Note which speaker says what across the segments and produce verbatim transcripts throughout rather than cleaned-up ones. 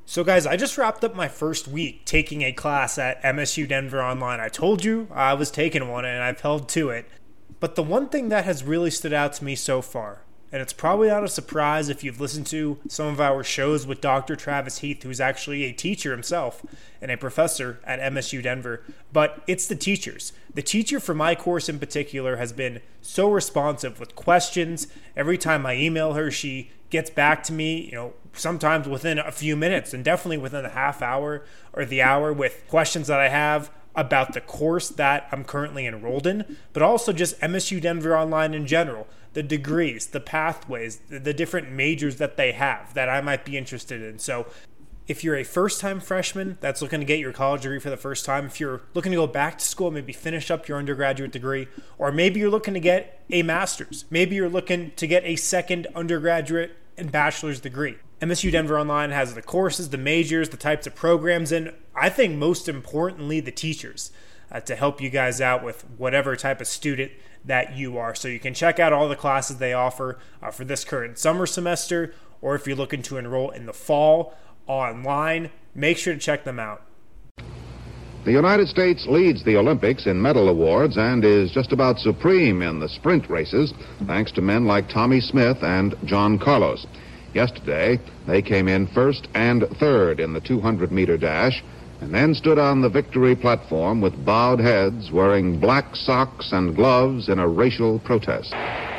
Speaker 1: So guys, I just wrapped up my first week taking a class at M S U Denver Online. I told you I was taking one and I've held to it. But the one thing that has really stood out to me so far, and it's probably not a surprise if you've listened to some of our shows with Doctor Travis Heath, who's actually a teacher himself and a professor at M S U Denver, but it's the teachers. The teacher for my course in particular has been so responsive with questions. Every time I email her, she gets back to me, you know, sometimes within a few minutes and definitely within the half hour or the hour with questions that I have about the course that I'm currently enrolled in, but also just M S U Denver Online in general, the degrees, the pathways, the, the different majors that they have that I might be interested in. So if you're a first-time freshman that's looking to get your college degree for the first time, if you're looking to go back to school, maybe finish up your undergraduate degree, or maybe you're looking to get a master's, maybe you're looking to get a second undergraduate and bachelor's degree, M S U Denver Online has the courses, the majors, the types of programs, and I think most importantly, the teachers uh, to help you guys out with whatever type of student that you are. So you can check out all the classes they offer uh, for this current summer semester, or if you're looking to enroll in the fall online, make sure to check them out.
Speaker 2: The United States leads the Olympics in medal awards and is just about supreme in the sprint races, thanks to men like Tommy Smith and John Carlos. Yesterday, they came in first and third in the two hundred meter dash, and then stood on the victory platform with bowed heads, wearing black socks and gloves in a racial protest.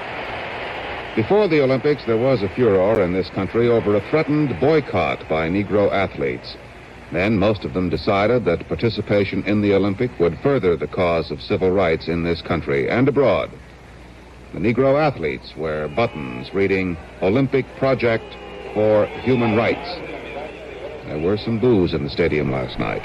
Speaker 2: Before the Olympics, there was a furor in this country over a threatened boycott by Negro athletes. Then most of them decided that participation in the Olympic would further the cause of civil rights in this country and abroad. The Negro athletes wear buttons reading Olympic Project for Human Rights. There were some boos in the stadium last night.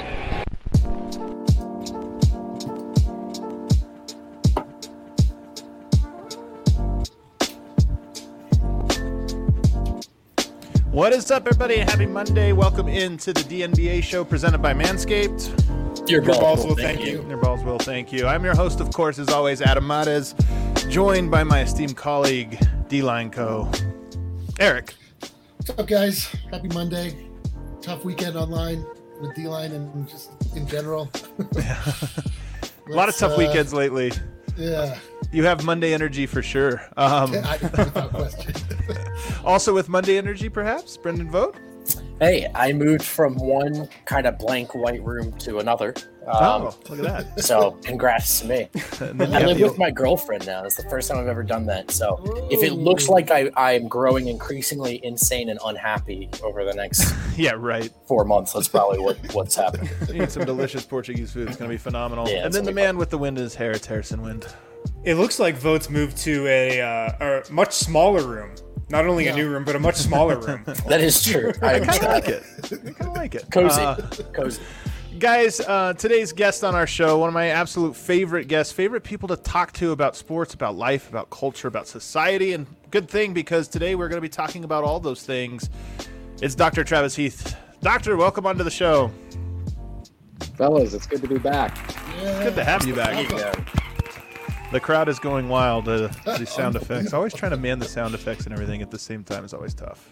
Speaker 3: What is up, everybody? Happy Monday. Welcome into the D N B A show presented by Manscaped.
Speaker 4: Your,
Speaker 1: Your balls will
Speaker 4: thank
Speaker 1: thank you.
Speaker 4: you.
Speaker 3: Your balls will thank you. I'm your host, of course, as always, Adam Mares, joined by my esteemed colleague, D-Line Co. Eric.
Speaker 4: What's up, guys? Happy Monday. Tough weekend online with D-Line and just in general.
Speaker 3: A lot of tough
Speaker 4: uh,
Speaker 3: weekends lately.
Speaker 4: Yeah.
Speaker 3: You have Monday energy for sure. Um,
Speaker 4: I, without question.
Speaker 3: also with Monday energy, perhaps, Brendan Vogt?
Speaker 5: Hey, I moved from one kind of blank white room to another. Um,
Speaker 3: oh, look at that.
Speaker 5: So congrats to me.
Speaker 3: And then you
Speaker 5: I
Speaker 3: have
Speaker 5: live
Speaker 3: the-
Speaker 5: with my girlfriend now. It's the first time I've ever done that. So if it looks like I, I'm growing increasingly insane and unhappy over the next
Speaker 3: Yeah, right.
Speaker 5: four months, that's probably what, what's happening.
Speaker 3: You eat some delicious Portuguese food. It's going to be phenomenal.
Speaker 5: Yeah,
Speaker 3: and
Speaker 5: it's
Speaker 3: then the
Speaker 5: gonna be
Speaker 3: man with the wind in his hair, it's Harrison Wind.
Speaker 1: It looks like Votes moved to a, uh, a much smaller room. Not only
Speaker 4: Yeah.
Speaker 1: a new room, but a much smaller room.
Speaker 5: That is true. I
Speaker 3: I kind of
Speaker 5: understand.
Speaker 3: like it. I kind of like it.
Speaker 5: Cozy.
Speaker 3: Uh,
Speaker 5: Cozy.
Speaker 3: Guys, uh, today's guest on our show, one of my absolute favorite guests, favorite people to talk to about sports, about life, about culture, about society, and good thing because today we're going to be talking about all those things. It's Doctor Travis Heath. Doctor, welcome onto the show.
Speaker 6: Fellas, it's good to be back.
Speaker 4: Yeah.
Speaker 3: Good to have you back.
Speaker 5: Yeah.
Speaker 3: The crowd is going wild. Uh, these sound effects. Always trying to man the sound effects and everything at the same time is always tough.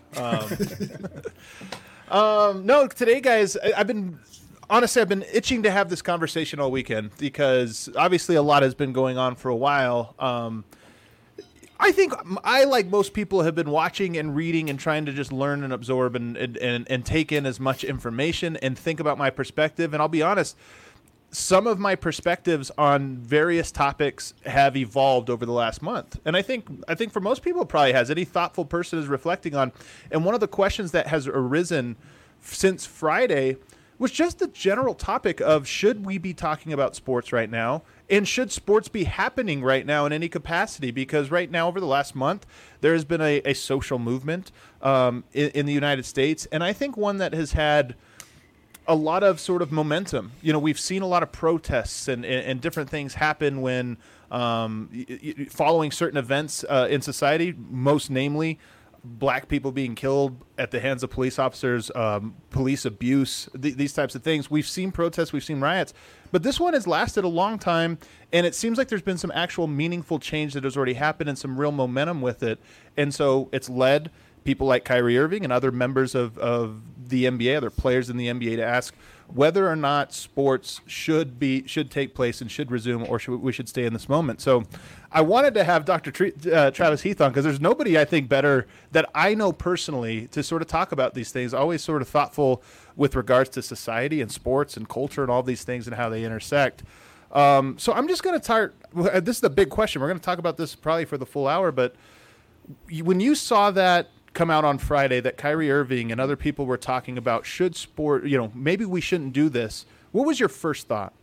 Speaker 3: Um, um, no, today, guys, I, I've been honestly, I've been itching to have this conversation all weekend because obviously a lot has been going on for a while. Um, I think I, like most people, have been watching and reading and trying to just learn and absorb and, and, and, and take in as much information and think about my perspective. And I'll be honest, some of my perspectives on various topics have evolved over the last month. And I think I think for most people it probably has. Any thoughtful person is reflecting on. And one of the questions that has arisen since Friday was just the general topic of, should we be talking about sports right now? And should sports be happening right now in any capacity? Because right now, over the last month, there has been a, a social movement um, in, in the United States. And I think one that has had a lot of sort of momentum. You know, we've seen a lot of protests and, and, and different things happen when um, y- y- following certain events uh, in society, most namely black people being killed at the hands of police officers, um, police abuse, th- these types of things. We've seen protests, we've seen riots, but this one has lasted a long time, and it seems like there's been some actual meaningful change that has already happened and some real momentum with it. And so it's led people like Kyrie Irving and other members of, of the N B A, other players in the N B A, to ask whether or not sports should be should take place and should resume, or should we should stay in this moment. So I wanted to have Doctor Tre- uh, Travis Heath on, because there's nobody I think better that I know personally to sort of talk about these things. Always sort of thoughtful with regards to society and sports and culture and all these things and how they intersect. Um, so I'm just going to start. This is a big question. We're going to talk about this probably for the full hour. But when you saw that come out on Friday, that Kyrie Irving and other people were talking about should sport, you know, maybe we shouldn't do this, what was your first thought?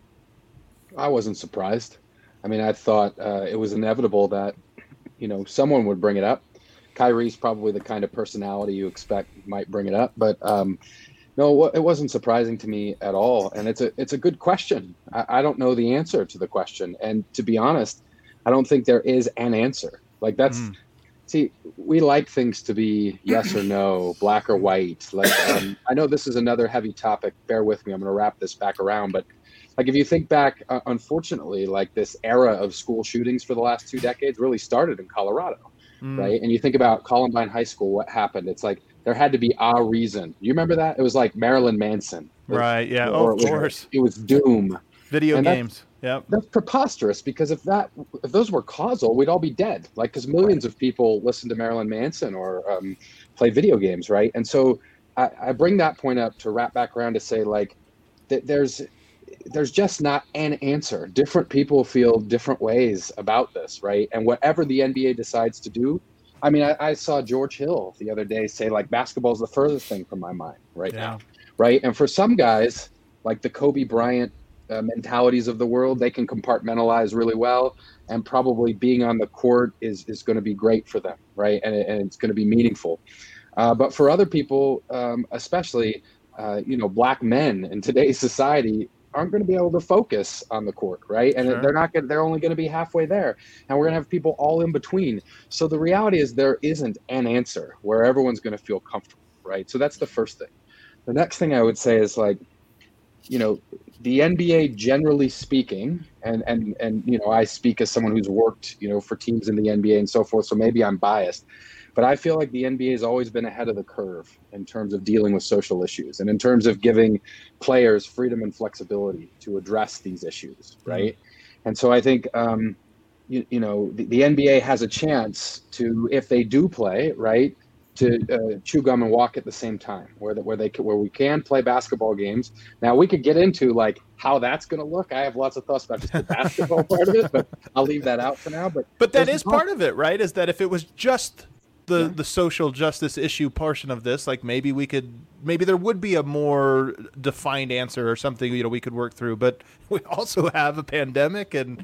Speaker 6: I wasn't surprised. I mean, I thought uh, it was inevitable that, you know, someone would bring it up. Kyrie's probably the kind of personality you expect might bring it up, but um, no, it wasn't surprising to me at all. And it's a it's a good question. I, I don't know the answer to the question, and to be honest, I don't think there is an answer. Like that's. Mm. See, we like things to be yes or no, black or white. Like, um, I know this is another heavy topic. Bear with me. I'm going to wrap this back around. But like, if you think back, uh, unfortunately, like this era of school shootings for the last two decades really started in Colorado, mm. right? And you think about Columbine High School, what happened? It's like there had to be a reason. You remember that? It was like Marilyn Manson.
Speaker 3: Right, yeah, oh, of course.
Speaker 6: It was doom.
Speaker 3: Video and games.
Speaker 6: Yeah, that's preposterous, because if that if those were causal, we'd all be dead. Like, because millions of people listen to Marilyn Manson or um, play video games, right? And so I, I bring that point up to wrap back around to say, like, that there's there's just not an answer. Different people feel different ways about this, right? And whatever the N B A decides to do, I mean, I, I saw George Hill the other day say, like, basketball is the furthest thing from my mind right yeah. now, right? And for some guys, like the Kobe Bryant Uh, mentalities of the world, they can compartmentalize really well, and probably being on the court is is going to be great for them, right? And, and it's going to be meaningful. Uh, but for other people, um, especially, uh, you know, black men in today's society aren't going to be able to focus on the court, right? And sure. they're not going. They're only going to be halfway there, and we're going to have people all in between. So the reality is there isn't an answer where everyone's going to feel comfortable, right? So that's the first thing. The next thing I would say is, like, you know, the N B A, generally speaking, and, and, and, you know, I speak as someone who's worked, you know, for teams in the N B A and so forth, so maybe I'm biased, but I feel like the N B A has always been ahead of the curve in terms of dealing with social issues and in terms of giving players freedom and flexibility to address these issues, right? Mm-hmm. And so I think, um, you, you know, the, the N B A has a chance to, if they do play, right, to uh, chew gum and walk at the same time, where the, where they where we can play basketball games. Now we could get into like how that's going to look. I have lots of thoughts about just the basketball part of it, but I'll leave that out for now. But
Speaker 3: but that is part of it, right? Is that if it was just the yeah. the social justice issue portion of this, like maybe we could maybe there would be a more defined answer or something, you know, we could work through. But we also have a pandemic and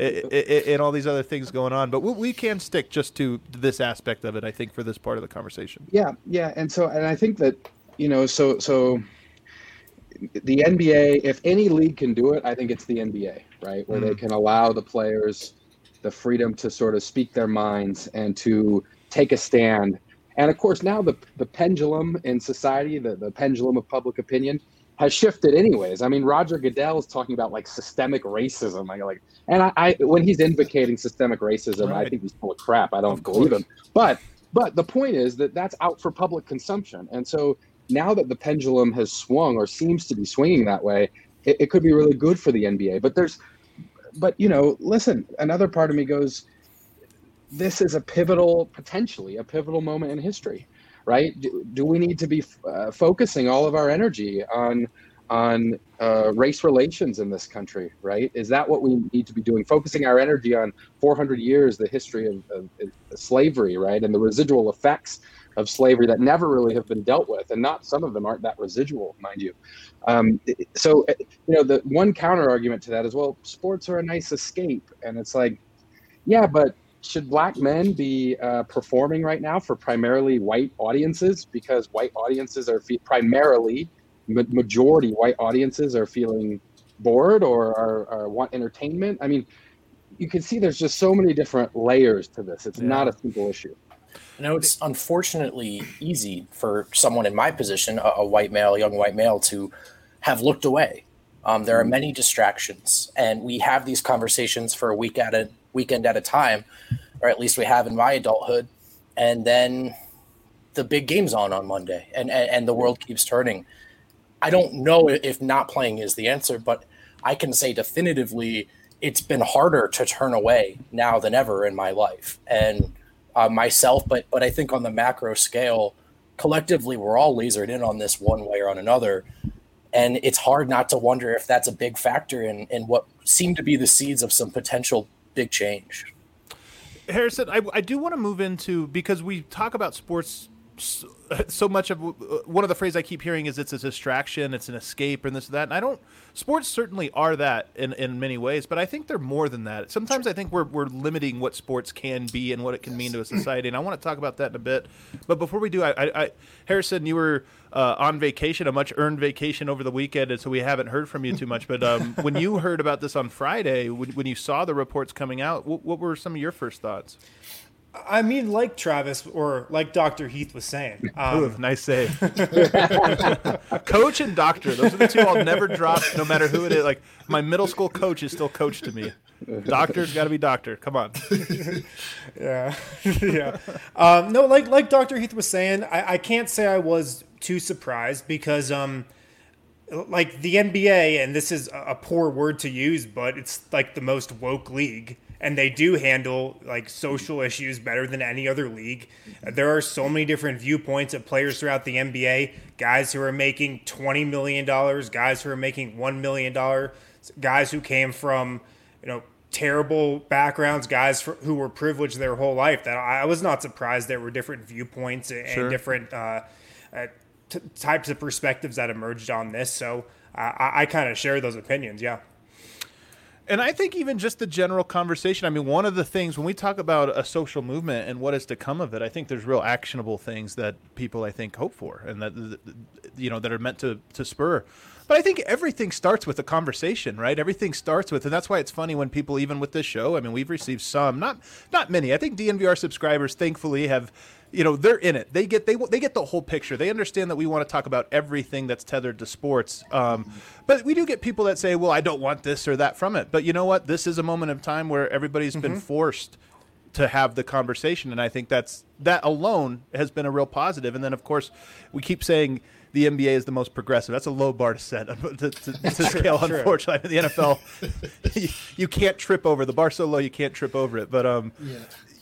Speaker 3: and all these other things going on. But we can stick just to this aspect of it, I think, for this part of the conversation.
Speaker 6: Yeah, yeah, and so and I think that, you know, so so the N B A, if any league can do it, I think it's the N B A, right, where mm. they can allow the players the freedom to sort of speak their minds and to take a stand. And of course, now the the pendulum in society, the, the pendulum of public opinion has shifted anyways. I mean, Roger Goodell is talking about like systemic racism. I like, and I, I when he's invocating systemic racism, right. I think he's full of crap. I don't believe him. But but the point is that that's out for public consumption. And so now that the pendulum has swung or seems to be swinging that way, it, it could be really good for the N B A. But there's, but you know, listen, another part of me goes, this is a pivotal, potentially a pivotal moment in history, right? Do, do we need to be uh, focusing all of our energy on on uh, race relations in this country, right? Is that what we need to be doing? Focusing our energy on four hundred years, the history of, of, of slavery, right? And the residual effects of slavery that never really have been dealt with. And not some of them aren't that residual, mind you. Um, so, you know, the one counter argument to that is, well, sports are a nice escape. And it's like, yeah, but should black men be uh, performing right now for primarily white audiences, because white audiences are fe- primarily ma- majority white audiences are feeling bored or are, are want entertainment? I mean, you can see there's just so many different layers to this. It's yeah. not a simple issue.
Speaker 5: You know, it's unfortunately easy for someone in my position, a, a white male, a young white male, to have looked away. Um, there are many distractions, and we have these conversations for a week at a weekend at a time, or at least we have in my adulthood. And then the big game's on on Monday, and, and, and the world keeps turning. I don't know if not playing is the answer, but I can say definitively it's been harder to turn away now than ever in my life. And uh, myself, but but I think on the macro scale, collectively, we're all lasered in on this one way or on another. And it's hard not to wonder if that's a big factor in, in what seem to be the seeds of some potential big change.
Speaker 3: Harrison, I, I do want to move into, because we talk about sports so, so much of, one of the phrases I keep hearing is it's a distraction, it's an escape, and this and that. And I don't, sports certainly are that in, in many ways, but I think they're more than that. Sometimes I think we're we're limiting what sports can be and what it can mean to a society, and I want to talk about that in a bit. But before we do, I, I, I Harrison, you were uh, on vacation, a much earned vacation over the weekend, and so we haven't heard from you too much. But um, when you heard about this on Friday, when, when you saw the reports coming out, what, what were some of your first thoughts?
Speaker 1: I mean, like Travis, or like Doctor Heath was saying. Um,
Speaker 3: Ooh, nice save. Coach and doctor, those are the two I'll never drop, no matter who it is. Like, my middle school coach is still coach to me. Doctor's got to be doctor. Come on.
Speaker 1: yeah, yeah. Um, no, like like Doctor Heath was saying, I, I can't say I was too surprised because, um, like the N B A, and this is a poor word to use, but it's like the most woke league. And they do handle like social issues better than any other league. There are so many different viewpoints of players throughout the N B A. Guys who are making twenty million dollars, guys who are making one million dollars, guys who came from, you know, terrible backgrounds, guys for, who were privileged their whole life. That I was not surprised there were different viewpoints and
Speaker 3: Sure.
Speaker 1: different uh, uh, t- types of perspectives that emerged on this. So uh, I, I kind of share those opinions. Yeah.
Speaker 3: And I think even just the general conversation, I mean, one of the things when we talk about a social movement and what is to come of it, I think there's real actionable things that people, I think, hope for and that, you know, that are meant to, to spur. But I think everything starts with a conversation, right? Everything starts with, and that's why it's funny when people, even with this show, I mean, we've received some, not not many. I think D N V R subscribers, thankfully, have, you know, they're in it. They get they they get the whole picture. They understand that we want to talk about everything that's tethered to sports. Um, but we do get people that say, well, I don't want this or that from it. But you know what? This is a moment of time where everybody's mm-hmm. been forced to have the conversation. And I think that's that alone has been a real positive. And then, of course, we keep saying the N B A is the most progressive. That's a low bar to set to, to, to scale,
Speaker 1: true.
Speaker 3: Unfortunately. The N F L, you, you can't trip over. The bar so low you can't trip over it. But um,
Speaker 4: yeah.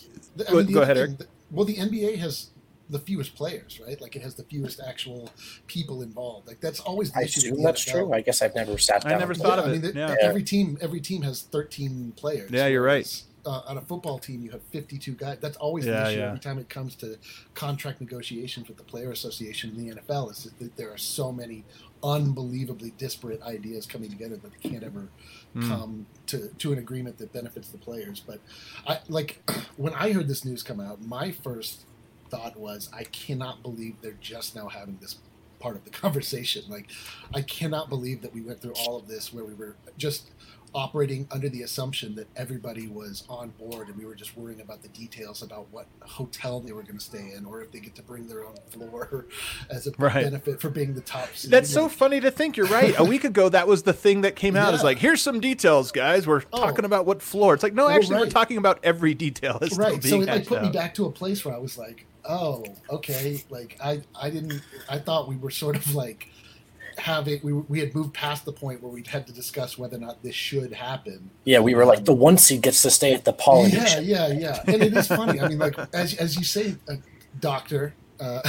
Speaker 4: I
Speaker 3: go,
Speaker 4: mean,
Speaker 3: go ahead, Eric.
Speaker 4: Thing, well, the N B A has the fewest players, right? Like it has the fewest actual people involved. Like that's always the
Speaker 5: I
Speaker 4: issue.
Speaker 5: assume that's
Speaker 4: N F L.
Speaker 5: true. I guess I've never sat down.
Speaker 3: I never thought
Speaker 4: yeah,
Speaker 3: of
Speaker 4: I
Speaker 3: it.
Speaker 4: mean,
Speaker 3: yeah.
Speaker 4: Every team, every team has thirteen players.
Speaker 3: Yeah, you're right.
Speaker 4: Uh, on a football team, you have fifty-two guys. That's always
Speaker 3: yeah,
Speaker 4: the issue
Speaker 3: yeah.
Speaker 4: every time it comes to contract negotiations with the player association in the N F L. Is that there are so many unbelievably disparate ideas coming together that they can't ever mm. come to, to an agreement that benefits the players. But I like when I heard this news come out, my first thought was, I cannot believe they're just now having this part of the conversation. Like, I cannot believe that we went through all of this where we were just operating under the assumption that everybody was on board and we were just worrying about the details about what hotel they were going to stay in or if they get to bring their own floor as a
Speaker 3: right.
Speaker 4: benefit for being the top seed.
Speaker 3: That's so funny to think. You're right. A week ago, that was the thing that came out.
Speaker 4: Yeah.
Speaker 3: It's like, here's some details, guys. We're oh. talking about what floor. It's like, no, actually,
Speaker 4: well, right.
Speaker 3: we're talking about every detail. It's
Speaker 4: right.
Speaker 3: Still being
Speaker 4: so it like put
Speaker 3: out.
Speaker 4: me back to a place where I was like, oh, okay. Like I, I didn't, I thought we were sort of like, having we we had moved past the point where we had to discuss whether or not this should happen.
Speaker 5: Yeah, we were like the one seed gets to stay at the Polynesian.
Speaker 4: Yeah, yeah, yeah. And it is funny. I mean, like as as you say, uh, doctor, uh,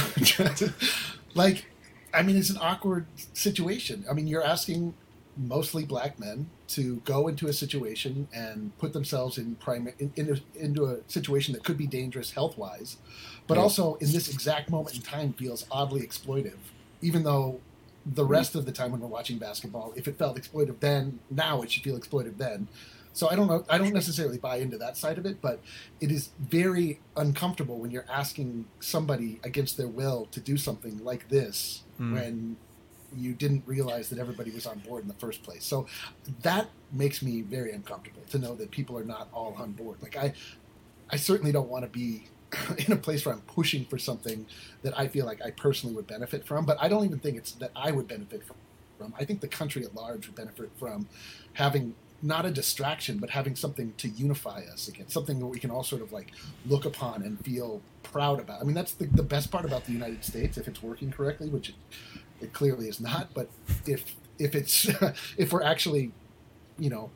Speaker 4: like, I mean, it's an awkward situation. I mean, you're asking mostly black men to go into a situation and put themselves in prime in, in a, into a situation that could be dangerous health wise, but yeah. also in this exact moment in time feels oddly exploitive, even though. The rest of the time when we're watching basketball, if it felt exploitive then, now it should feel exploitive then. So I don't know. I don't necessarily buy into that side of it, but it is very uncomfortable when you're asking somebody against their will to do something like this mm. when you didn't realize that everybody was on board in the first place. So that makes me very uncomfortable to know that people are not all on board. Like I, I certainly don't want to be in a place where I'm pushing for something that I feel like I personally would benefit from, but I don't even think it's that I would benefit from. I think the country at large would benefit from having not a distraction, but having something to unify us again, something that we can all sort of like look upon and feel proud about. I mean, that's the, the best part about the United States, if it's working correctly, which it, it clearly is not. But if if it's if we're actually, you know,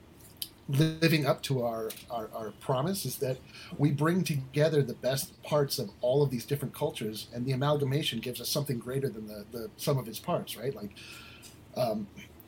Speaker 4: living up to our, our, our promise, is that we bring together the best parts of all of these different cultures, and the amalgamation gives us something greater than the, the sum of its parts, right? Like, um,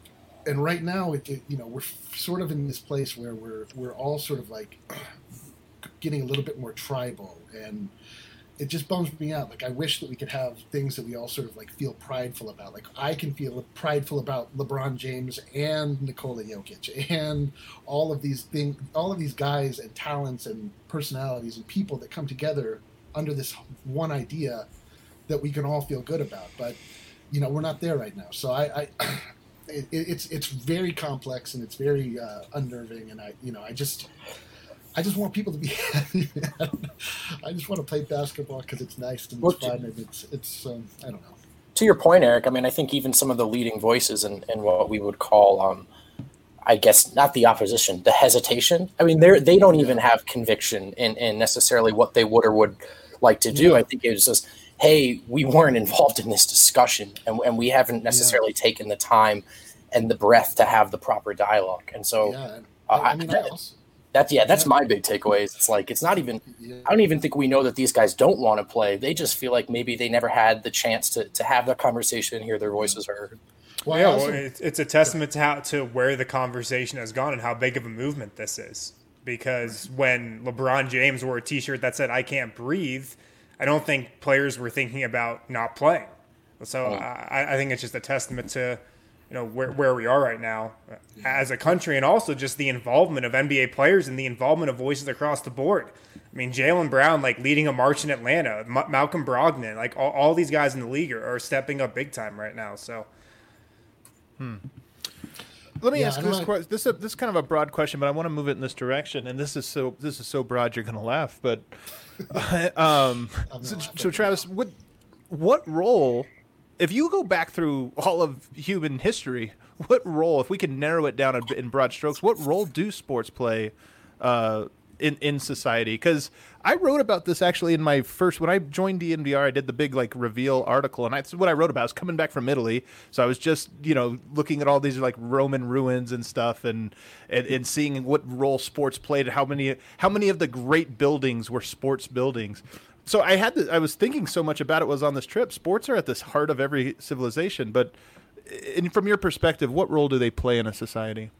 Speaker 4: and right now, it, it, you know, we're sort of in this place where we're we're all sort of like getting a little bit more tribal, and it just bums me out. Like, I wish that we could have things that we all sort of like feel prideful about. Like, I can feel prideful about LeBron James and Nikola Jokic and all of these things, all of these guys and talents and personalities and people that come together under this one idea that we can all feel good about. But, you know, we're not there right now. So I, I it, it's it's very complex, and it's very uh, unnerving. And I, you know, I just. I just want people to be happy, man. I just want to play basketball because it's nice and it's well, fun, and it's it's um, I don't know.
Speaker 5: To your point, Eric, I mean, I think even some of the leading voices in, in what we would call, um, I guess, not the opposition, the hesitation. I mean, they they don't even have conviction in, in necessarily what they would or would like to do. Yeah. I think it was just, hey, we weren't involved in this discussion, and and we haven't necessarily yeah. taken the time and the breath to have the proper dialogue. And so,
Speaker 4: yeah. I, I mean, I, I also.
Speaker 5: That's yeah, that's my big takeaways. It's like it's not even. I don't even think we know that these guys don't want to play. They just feel like maybe they never had the chance to, to have that conversation and hear their voices heard.
Speaker 1: Well, yeah, well, it's, it's a testament to how to where the conversation has gone and how big of a movement this is. Because when LeBron James wore a T-shirt that said "I can't breathe," I don't think players were thinking about not playing. So oh. I, I think it's just a testament to. You know, where where we are right now as a country, and also just the involvement of N B A players and the involvement of voices across the board. I mean, Jaylen Brown, like, leading a march in Atlanta, M- Malcolm Brogdon, like, all, all these guys in the league are, are stepping up big time right now. So,
Speaker 3: hmm. Let me
Speaker 4: yeah,
Speaker 3: ask this like... question. This is, a, this is kind of a broad question, but I want to move it in this direction. And this is so this is so broad, you're going to laugh. But um, so, so, Travis, what what role? If you go back through all of human history, what role, if we can narrow it down in broad strokes, what role do sports play uh, in in society? Because I wrote about this actually in my first, when I joined D N V R, I did the big like reveal article, and that's what I wrote about. I was coming back from Italy, so I was just you know looking at all these like Roman ruins and stuff, and and, and seeing what role sports played, how many how many of the great buildings were sports buildings. So I had to, I was thinking so much about it was on this trip. Sports are at the heart of every civilization, but in, from your perspective, what role do they play in a society?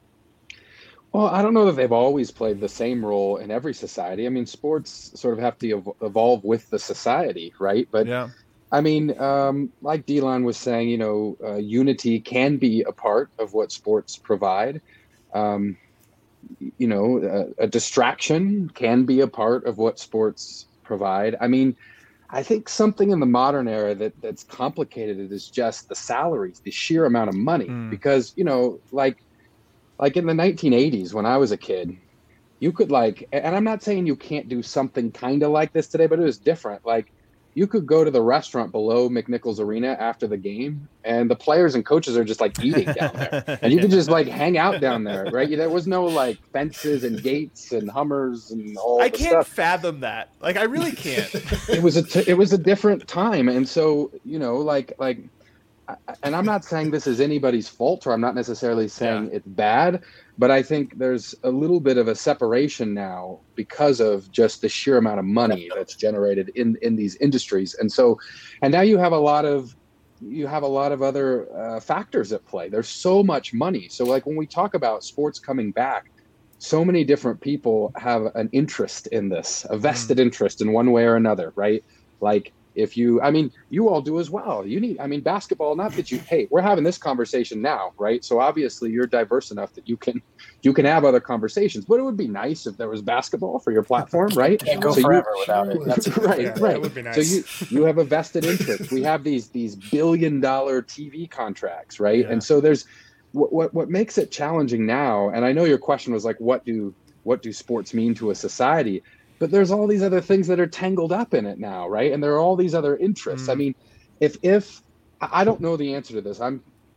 Speaker 6: Well, I don't know that they've always played the same role in every society. I mean, sports sort of have to evolve with the society, right? But yeah. I mean, um, like Delon was saying, you know, uh, unity can be a part of what sports provide. Um, you know, a, a distraction can be a part of what sports provide. I mean, I think something in the modern era that that's complicated it is just the salaries, the sheer amount of money. Mm. Because, you know, like like in the nineteen eighties when I was a kid, you could like, and I'm not saying you can't do something kind of like this today, but it was different. Like, you could go to the restaurant below McNichols Arena after the game, and the players and coaches are just like eating down there, and you could just like hang out down there, right? There was no like fences and gates and Hummers and all.
Speaker 3: I
Speaker 6: the
Speaker 3: can't
Speaker 6: stuff.
Speaker 3: fathom that. Like, I really can't.
Speaker 6: It was a t- it was a different time, and so you know, like like, and I'm not saying this is anybody's fault, or I'm not necessarily saying yeah. it's bad. But I think there's a little bit of a separation now because of just the sheer amount of money that's generated in, in these industries. And so, and now you have a lot of, you have a lot of other uh, factors at play. There's so much money. So like when we talk about sports coming back, so many different people have an interest in this, a vested mm. interest in one way or another, right? Like, if you, I mean, you all do as well. You need, I mean, basketball, not that you, hey, we're having this conversation now, right? So obviously you're diverse enough that you can, you can have other conversations, but it would be nice if there was basketball for your platform, right?
Speaker 5: Can't go
Speaker 6: so
Speaker 5: forever
Speaker 6: you,
Speaker 5: without it. That's
Speaker 6: right,
Speaker 1: yeah,
Speaker 6: right.
Speaker 1: That would be nice.
Speaker 6: So you, you have a vested interest. We have these, these billion dollar T V contracts, right? Yeah. And so there's what, what, what makes it challenging now. And I know your question was like, what do, what do sports mean to a society? But there's all these other things that are tangled up in it now, right? And there are all these other interests. Mm. I mean, if if I don't know the answer to this, I'm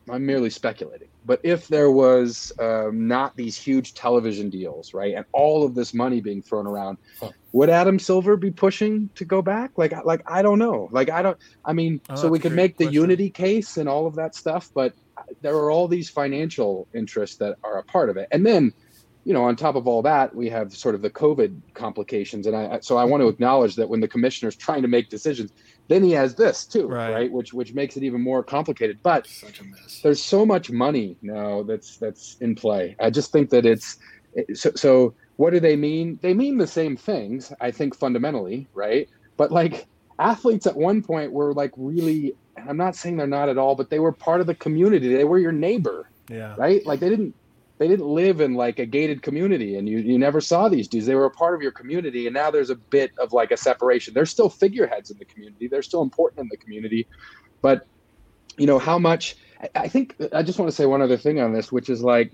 Speaker 6: I'm merely speculating, but if there was um, not these huge television deals, right, and all of this money being thrown around, huh. would Adam Silver be pushing to go back? Like, like I don't know. Like, I don't. I mean, oh, so we could make the question. Unity case and all of that stuff, but there are all these financial interests that are a part of it, and then, you know, on top of all that, we have sort of the COVID complications, and I so I want to acknowledge that when the commissioner's trying to make decisions, then he has this too, right? right? Which which makes it even more complicated. But
Speaker 4: Such a mess.
Speaker 6: There's so much money now that's that's in play. I just think that it's so. So what do they mean? They mean the same things, I think, fundamentally, right? But like athletes at one point were like really. I'm not saying they're not at all, but they were part of the community. They were your neighbor,
Speaker 3: yeah,
Speaker 6: right? Like they didn't. They didn't live in like a gated community, and you, you never saw these dudes. They were a part of your community, and now there's a bit of like a separation. They're still figureheads in the community. They're still important in the community, but you know how much. I think I just want to say one other thing on this, which is like,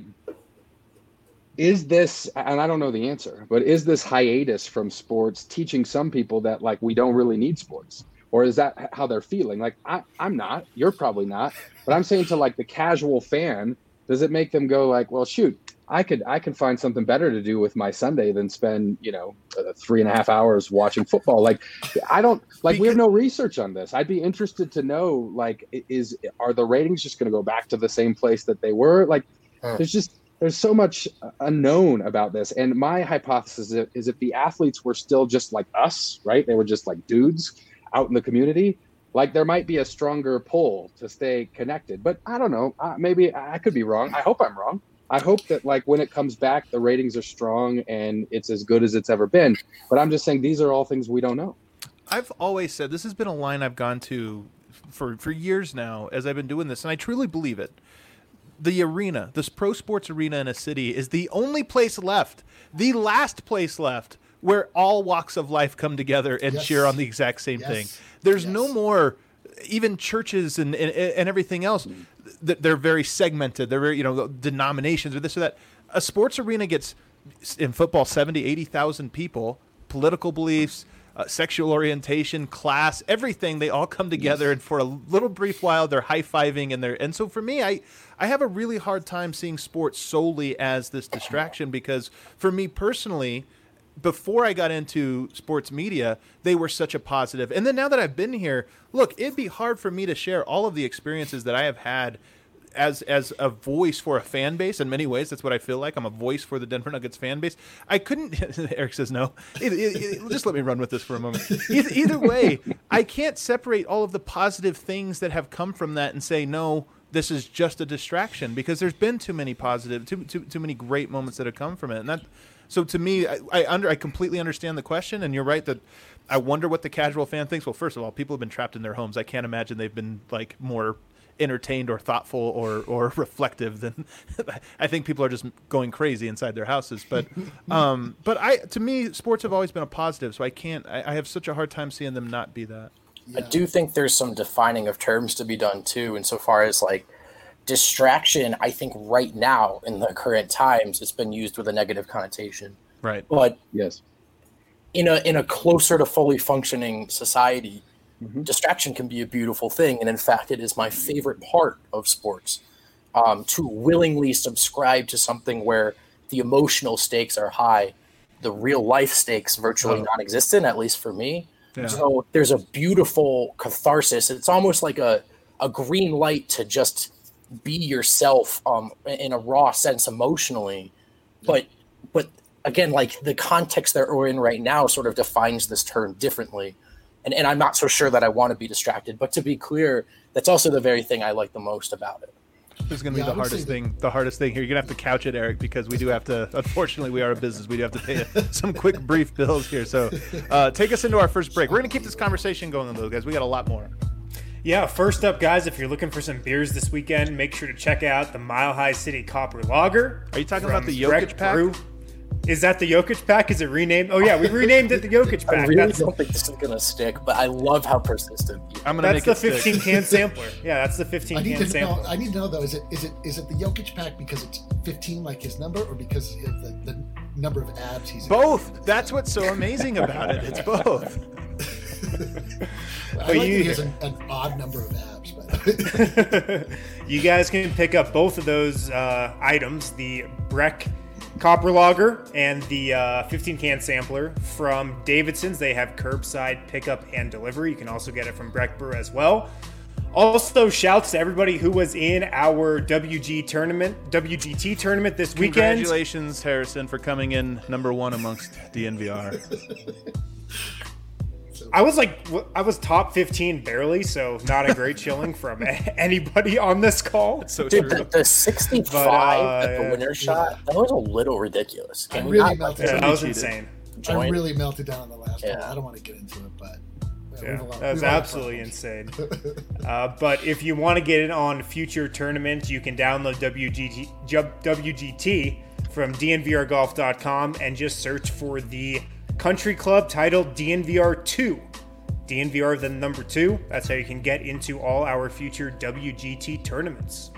Speaker 6: is this? And I don't know the answer, but is this hiatus from sports teaching some people that like we don't really need sports, or is that how they're feeling? Like I, I'm not. You're probably not, but I'm saying to like the casual fan. Does it make them go like, well, shoot, I could I can find something better to do with my Sunday than spend, you know, uh, three and a half hours watching football? Like, I don't like because, we have no research on this. I'd be interested to know, like, is are the ratings just going to go back to the same place that they were? Like, huh. there's just there's so much unknown about this. And my hypothesis is, is if the athletes were still just like us, right? They were just like dudes out in the community. Like there might be a stronger pull to stay connected, but I don't know. Uh, maybe I could be wrong. I hope I'm wrong. I hope that like when it comes back, the ratings are strong and it's as good as it's ever been. But I'm just saying these are all things we don't know.
Speaker 3: I've always said this has been a line I've gone to for, for years now as I've been doing this, and I truly believe it. The arena, this pro sports arena in a city is the only place left, the last place left where all walks of life come together and yes. cheer on the exact same yes. thing. There's yes. no more, even churches and, and, and everything else, they're very segmented. They're very, you know, denominations or this or that. A sports arena gets, in football, seventy, eighty thousand people, political beliefs, uh, sexual orientation, class, everything. They all come together, yes. and for a little brief while, they're high-fiving. And, they're, and so for me, I, I have a really hard time seeing sports solely as this distraction because for me personally, before I got into sports media, they were such a positive. And then now that I've been here, look, it'd be hard for me to share all of the experiences that I have had as as a voice for a fan base. In many ways, that's what I feel like. I'm a voice for the Denver Nuggets fan base. I couldn't – Eric says no. It, it, it, just let me run with this for a moment. Either, either way, I can't separate all of the positive things that have come from that and say, no, this is just a distraction because there's been too many positive, too, too, too many great moments that have come from it. And that – So to me, I, I under I completely understand the question, and you're right that I wonder what the casual fan thinks. Well, first of all, people have been trapped in their homes. I can't imagine they've been like more entertained or thoughtful or, or reflective than I think people are just going crazy inside their houses. But um, but I to me, sports have always been a positive, so I can't. I, I have such a hard time seeing them not be that.
Speaker 5: Yeah. I do think there's some defining of terms to be done too, insofar as like. Distraction, I think right now in the current times, it's been used with a negative connotation.
Speaker 3: Right.
Speaker 5: But
Speaker 6: yes,
Speaker 5: in a in a closer to fully functioning society,
Speaker 6: mm-hmm.
Speaker 5: distraction can be a beautiful thing. And in fact, it is my favorite part of sports, um, to willingly subscribe to something where the emotional stakes are high, the real life stakes virtually oh. non-existent, at least for me. Yeah. So there's a beautiful catharsis. It's almost like a, a green light to just be yourself um, in a raw sense emotionally. But but again, like the context that we're in right now sort of defines this term differently. And and I'm not so sure that I want to be distracted. But to be clear, that's also the very thing I like the most about it.
Speaker 3: This is going to yeah, be the hardest thing. The hardest thing here. You're going to have to couch it, Eric, because we do have to. Unfortunately, we are a business. We do have to pay some quick, brief bills here. So, uh, take us into our first break. We're going to keep this conversation going, though, guys. We got a lot more.
Speaker 1: Yeah, first up, guys, if you're looking for some beers this weekend, make sure to check out the Mile High City Copper Lager.
Speaker 3: Are you talking about the Jokic pack?
Speaker 1: Brew. Is that the Jokic pack? Is it renamed? Oh, yeah, we renamed it the Jokic pack.
Speaker 5: I really that's don't think this is going to stick, but I love how persistent you are.
Speaker 3: I'm going to make
Speaker 1: it stick. That's the fifteen-can sampler. Yeah, that's the fifteen-can sampler.
Speaker 4: Know, I need to know, though, is it is it is it the Jokic pack because it's fifteen like his number, or because of the, the number of abs he's
Speaker 3: both. In? That's what's so amazing about it. It's both.
Speaker 4: I like
Speaker 1: you,
Speaker 4: that he has an, an odd number of abs, but
Speaker 1: you guys can pick up both of those uh, items, the Breck Copper Lager and the uh, fifteen can sampler from Davidson's. They have curbside pickup and delivery. You can also get it from Breck Brew as well. Also, shouts to everybody who was in our W G tournament, W G T tournament this weekend.
Speaker 3: Congratulations, Harrison, for coming in number one amongst D N V R.
Speaker 1: I was like, I was top fifteen barely, so not a great shilling from anybody on this call.
Speaker 3: That's so
Speaker 5: Dude,
Speaker 3: true.
Speaker 5: the, the sixty-five
Speaker 1: But, uh,
Speaker 5: at the winner shot, that was a little ridiculous. Can
Speaker 4: I
Speaker 5: we
Speaker 4: really
Speaker 5: not
Speaker 4: melted
Speaker 1: Yeah,
Speaker 4: down.
Speaker 1: that was
Speaker 3: cheated.
Speaker 1: insane.
Speaker 4: I
Speaker 5: join?
Speaker 4: really melted down on the last
Speaker 5: Yeah.
Speaker 4: one. I don't want to get into it, but yeah, we
Speaker 1: Yeah,
Speaker 4: have a lot-
Speaker 1: that was
Speaker 4: we have a lot of
Speaker 1: absolutely
Speaker 4: problems.
Speaker 1: insane. Uh, but if you want to get in on future tournaments, you can download W G T, W G T from D N V R golf dot com and just search for the country club titled D N V R two. D N V R then number two. That's how you can get into all our future W G T tournaments.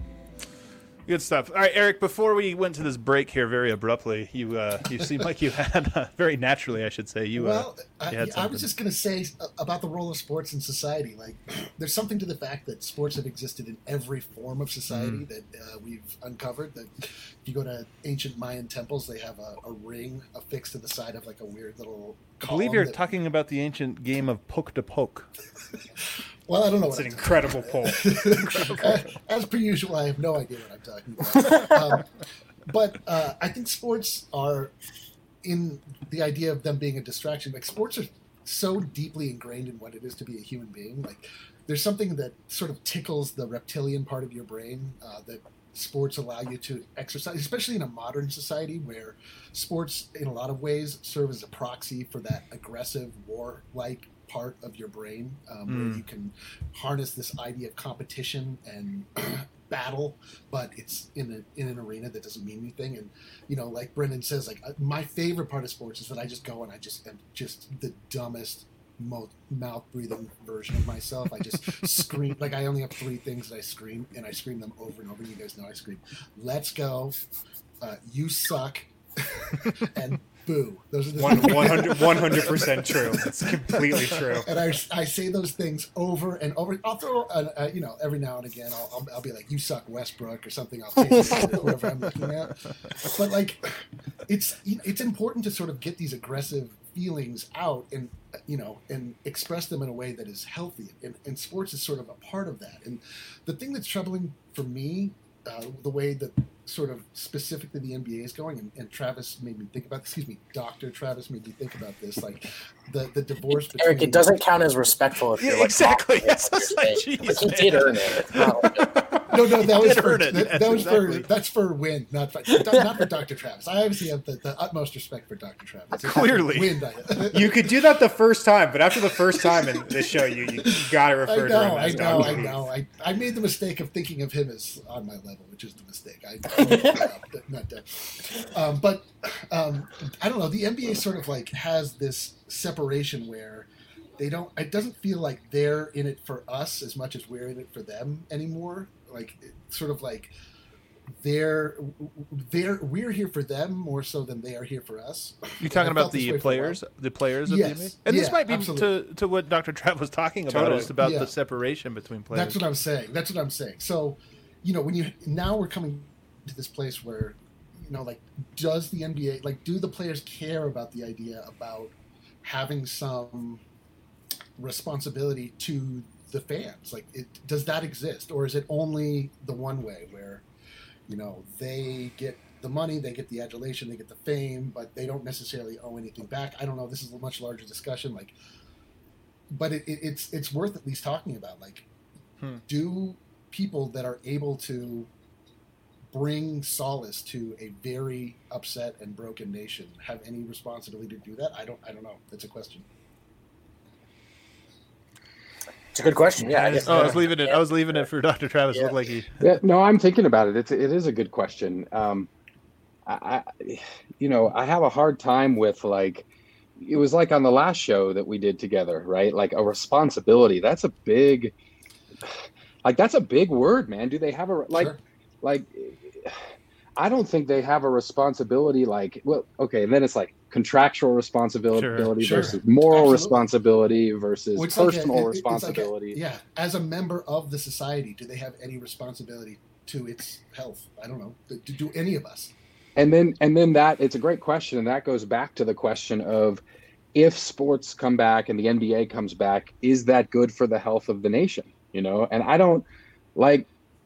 Speaker 3: Good stuff. All right, Eric, before we went to this break here very abruptly, you uh, you seemed like you had, uh, very naturally, I should say, you,
Speaker 4: Well,
Speaker 3: uh, you
Speaker 4: I,
Speaker 3: had
Speaker 4: I
Speaker 3: something.
Speaker 4: was just going to say about the role of sports in society. Like, there's something to the fact that sports have existed in every form of society
Speaker 3: Mm.
Speaker 4: that uh, we've uncovered. That if you go to ancient Mayan temples, they have a, a ring affixed to the side of like a weird little.
Speaker 3: I believe
Speaker 4: column
Speaker 3: you're
Speaker 4: that-
Speaker 3: talking about the ancient game of poke to poke.
Speaker 4: Well, I don't know
Speaker 1: It's
Speaker 4: what
Speaker 1: an
Speaker 4: I'm
Speaker 1: incredible poll.
Speaker 4: as, as per usual, I have no idea what I'm talking about. Um, but uh, I think sports are, in the idea of them being a distraction, like sports are so deeply ingrained in what it is to be a human being. Like there's something that sort of tickles the reptilian part of your brain uh, that sports allow you to exercise, especially in a modern society where sports in a lot of ways serve as a proxy for that aggressive war-like part of your brain um,
Speaker 3: Mm.
Speaker 4: where you can harness this idea of competition and battle, but it's in a, in an arena that doesn't mean anything. And you know, like Brendan says, like uh, my favorite part of sports is that I just go and I just am just the dumbest mo- mouth breathing version of myself. I just scream. Like I only have three things that I scream, and I scream them over and over. You guys know I scream, "Let's go," uh, "You suck," and "Boo." Those are the
Speaker 1: One, one hundred, one hundred percent true. It's completely true.
Speaker 4: And I, I say those things over and over. I'll throw, uh, uh, you know, every now and again, I'll, I'll, I'll be like, "You suck, Westbrook," or something. I'll say to whoever I'm looking at. But like, it's it's important to sort of get these aggressive feelings out and you know and express them in a way that is healthy. And, and sports is sort of a part of that. And the thing that's troubling for me, uh, the way that sort of specifically the N B A is going, and, and Travis made me think about. Excuse me, Doctor Travis made me think about this. Like the the divorce between
Speaker 5: Eric, it doesn't count as respectful if you're
Speaker 3: Yeah,
Speaker 5: like
Speaker 3: exactly.
Speaker 5: mocking
Speaker 3: Yes,
Speaker 5: what
Speaker 3: that's
Speaker 5: you're
Speaker 3: like,
Speaker 5: saying.
Speaker 3: geez,
Speaker 5: Like, he
Speaker 3: man.
Speaker 5: did earn it. It's not like-
Speaker 4: No, no, that was
Speaker 3: did
Speaker 4: for
Speaker 3: earn it.
Speaker 4: that,
Speaker 3: Yes,
Speaker 4: that was
Speaker 3: exactly.
Speaker 4: for that's for Win, not for not for Doctor Travis. I obviously have the, the utmost respect for Doctor Travis.
Speaker 3: Clearly.
Speaker 4: Win.
Speaker 1: You could do that the first time, but after the first time in this show, you, you gotta
Speaker 4: I
Speaker 1: refer to
Speaker 4: know,
Speaker 1: him
Speaker 4: I
Speaker 1: as
Speaker 4: know, I
Speaker 1: Doctor
Speaker 4: know. I, I made the mistake of thinking of him as on my level, which is the mistake. I, I not done. Um, but um, I don't know. The N B A sort of like has this separation where they don't. It doesn't feel like they're in it for us as much as we're in it for them anymore. Like it's sort of like they're they're we're here for them more so than they are here for us.
Speaker 3: You talking
Speaker 4: I
Speaker 3: about
Speaker 4: felt this
Speaker 3: the
Speaker 4: way for a while.
Speaker 3: players, the players of
Speaker 4: Yes.
Speaker 3: the N B A? And this
Speaker 4: Yeah,
Speaker 3: might be
Speaker 4: absolutely.
Speaker 3: to, to what Doctor Trav was talking about.
Speaker 1: Totally.
Speaker 3: It's about
Speaker 4: Yeah.
Speaker 3: the separation between players.
Speaker 4: That's what I'm saying. That's what I'm saying. So, you know, when you now we're coming to this place where, you know, like, does the N B A like do the players care about the idea about having some responsibility to the fans? Like, it does that exist, or is it only the one way where, you know, they get the money, they get the adulation, they get the fame, but they don't necessarily owe anything back? I don't know. This is a much larger discussion. Like, but it, it, it's it's worth at least talking about. Like,
Speaker 3: Hmm.
Speaker 4: do people that are able to bring solace to a very upset and broken nation have any responsibility to do that? I don't. I don't know. That's a question.
Speaker 5: It's a good question. Yeah, I guess.
Speaker 3: Oh, I was leaving it. I was leaving it for Doctor Travis.
Speaker 5: Yeah.
Speaker 3: Looked like he.
Speaker 6: Yeah, no, I'm thinking about it. It's it is a good question. Um, I, I, you know, I have a hard time with like, it was like on the last show that we did together, right? Like a responsibility. That's a big, like that's a big word, man. Do they have a like,
Speaker 4: Sure.
Speaker 6: like? I don't think they have a responsibility. Like, well, okay, and then it's like, contractual responsibility
Speaker 3: Sure,
Speaker 4: sure.
Speaker 6: versus moral
Speaker 4: Absolutely.
Speaker 6: responsibility versus
Speaker 4: Well, it's like a-
Speaker 6: personal
Speaker 4: it- it- it's like a-
Speaker 6: responsibility.
Speaker 4: yeah, as a member of the society, do they have any responsibility to its health? I don't know. Do, do any of us?
Speaker 6: And then and then that it's a great question, and that goes back to the question of if sports come back and the N B A comes back, is that good for the health of the nation? You know, and I don't like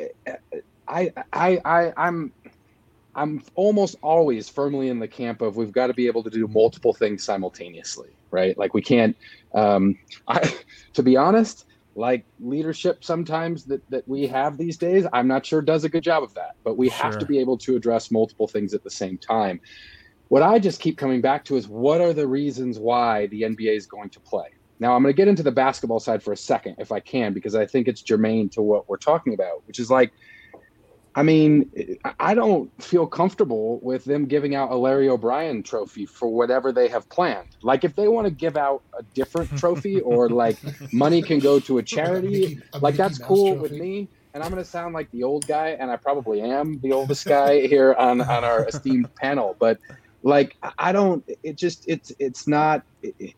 Speaker 6: I I I I'm I'm almost always firmly in the camp of we've got to be able to do multiple things simultaneously, right? Like we can't um I to be honest, like leadership sometimes that, that we have these days, I'm not sure does a good job of that, but we have
Speaker 3: Sure.
Speaker 6: to be able to address multiple things at the same time. What I just keep coming back to is what are the reasons why the N B A is going to play? Now I'm going to get into the basketball side for a second, if I can, because I think it's germane to what we're talking about, which is like, I mean, I don't feel comfortable with them giving out a Larry O'Brien trophy for whatever they have planned. Like if they want to give out a different trophy or like money can go to a charity,
Speaker 4: Mickey- a
Speaker 6: like
Speaker 4: Mickey
Speaker 6: that's
Speaker 4: Mouse
Speaker 6: cool
Speaker 4: trophy.
Speaker 6: with me. And I'm going to sound like the old guy, and I probably am the oldest guy here on, on our esteemed panel. But like, I don't, it just, it's, it's not, it,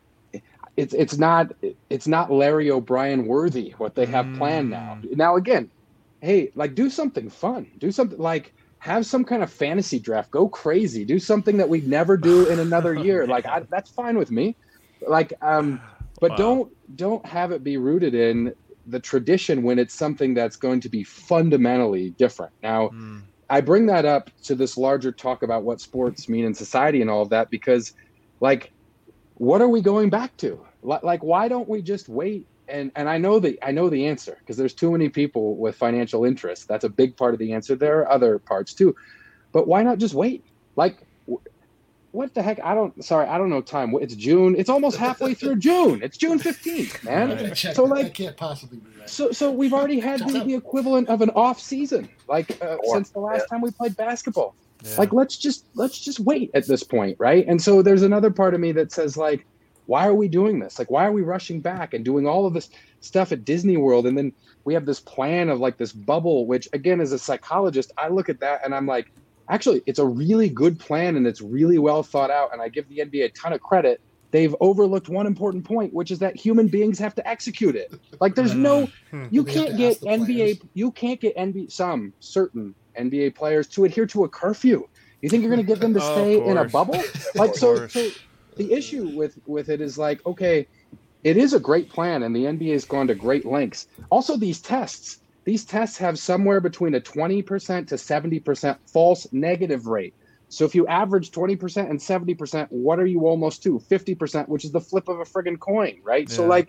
Speaker 6: it's, it's not, it's not Larry O'Brien worthy what they have planned now. Now, again, hey, like do something fun, do something like have some kind of fantasy draft, go crazy, do something that we'd never do in another year. Like I, that's fine with me. Like, um, but
Speaker 3: Wow.
Speaker 6: don't, don't have it be rooted in the tradition when it's something that's going to be fundamentally different. Now,
Speaker 3: Mm.
Speaker 6: I bring that up to this larger talk about what sports mean in society and all of that, because like, what are we going back to? Li- Like, why don't we just wait? And and I know the I know the answer because there's too many people with financial interests. That's a big part of the answer. There are other parts too, but why not just wait? Like, wh- what the heck? I don't. Sorry, I don't know time. It's June. It's almost halfway through June. It's June fifteenth, man.
Speaker 4: I'm gonna check
Speaker 6: So
Speaker 4: that.
Speaker 6: like,
Speaker 4: that can't possibly be right.
Speaker 6: so so we've already had the, the equivalent of an off season, like uh,
Speaker 5: Or-
Speaker 6: since the last time we played basketball.
Speaker 3: Yeah.
Speaker 6: Like let's just let's just wait at this point, right? And so there's another part of me that says like, why are we doing this? Like, why are we rushing back and doing all of this stuff at Disney World? And then we have this plan of like this bubble, which again, as a psychologist, I look at that and I'm like, actually, it's a really good plan and it's really well thought out. And I give the N B A a ton of credit. They've overlooked one important point, which is that human beings have to execute it. Like there's no, you
Speaker 4: They have
Speaker 6: can't
Speaker 4: to ask
Speaker 6: get
Speaker 4: the
Speaker 6: N B A,
Speaker 4: players.
Speaker 6: you can't get N B A, some certain N B A players to adhere to a curfew. You think you're going to get them to
Speaker 3: Of
Speaker 6: stay in a
Speaker 3: course.
Speaker 6: bubble? Like, so,
Speaker 3: course.
Speaker 6: so the issue with, with it is like, okay, it is a great plan and the N B A has gone to great lengths. Also, these tests, these tests have somewhere between a twenty percent to seventy percent false negative rate. So if you average twenty percent and seventy percent, what are you almost to? fifty percent, which is the flip of a friggin' coin, right? So
Speaker 3: Yeah.
Speaker 6: like,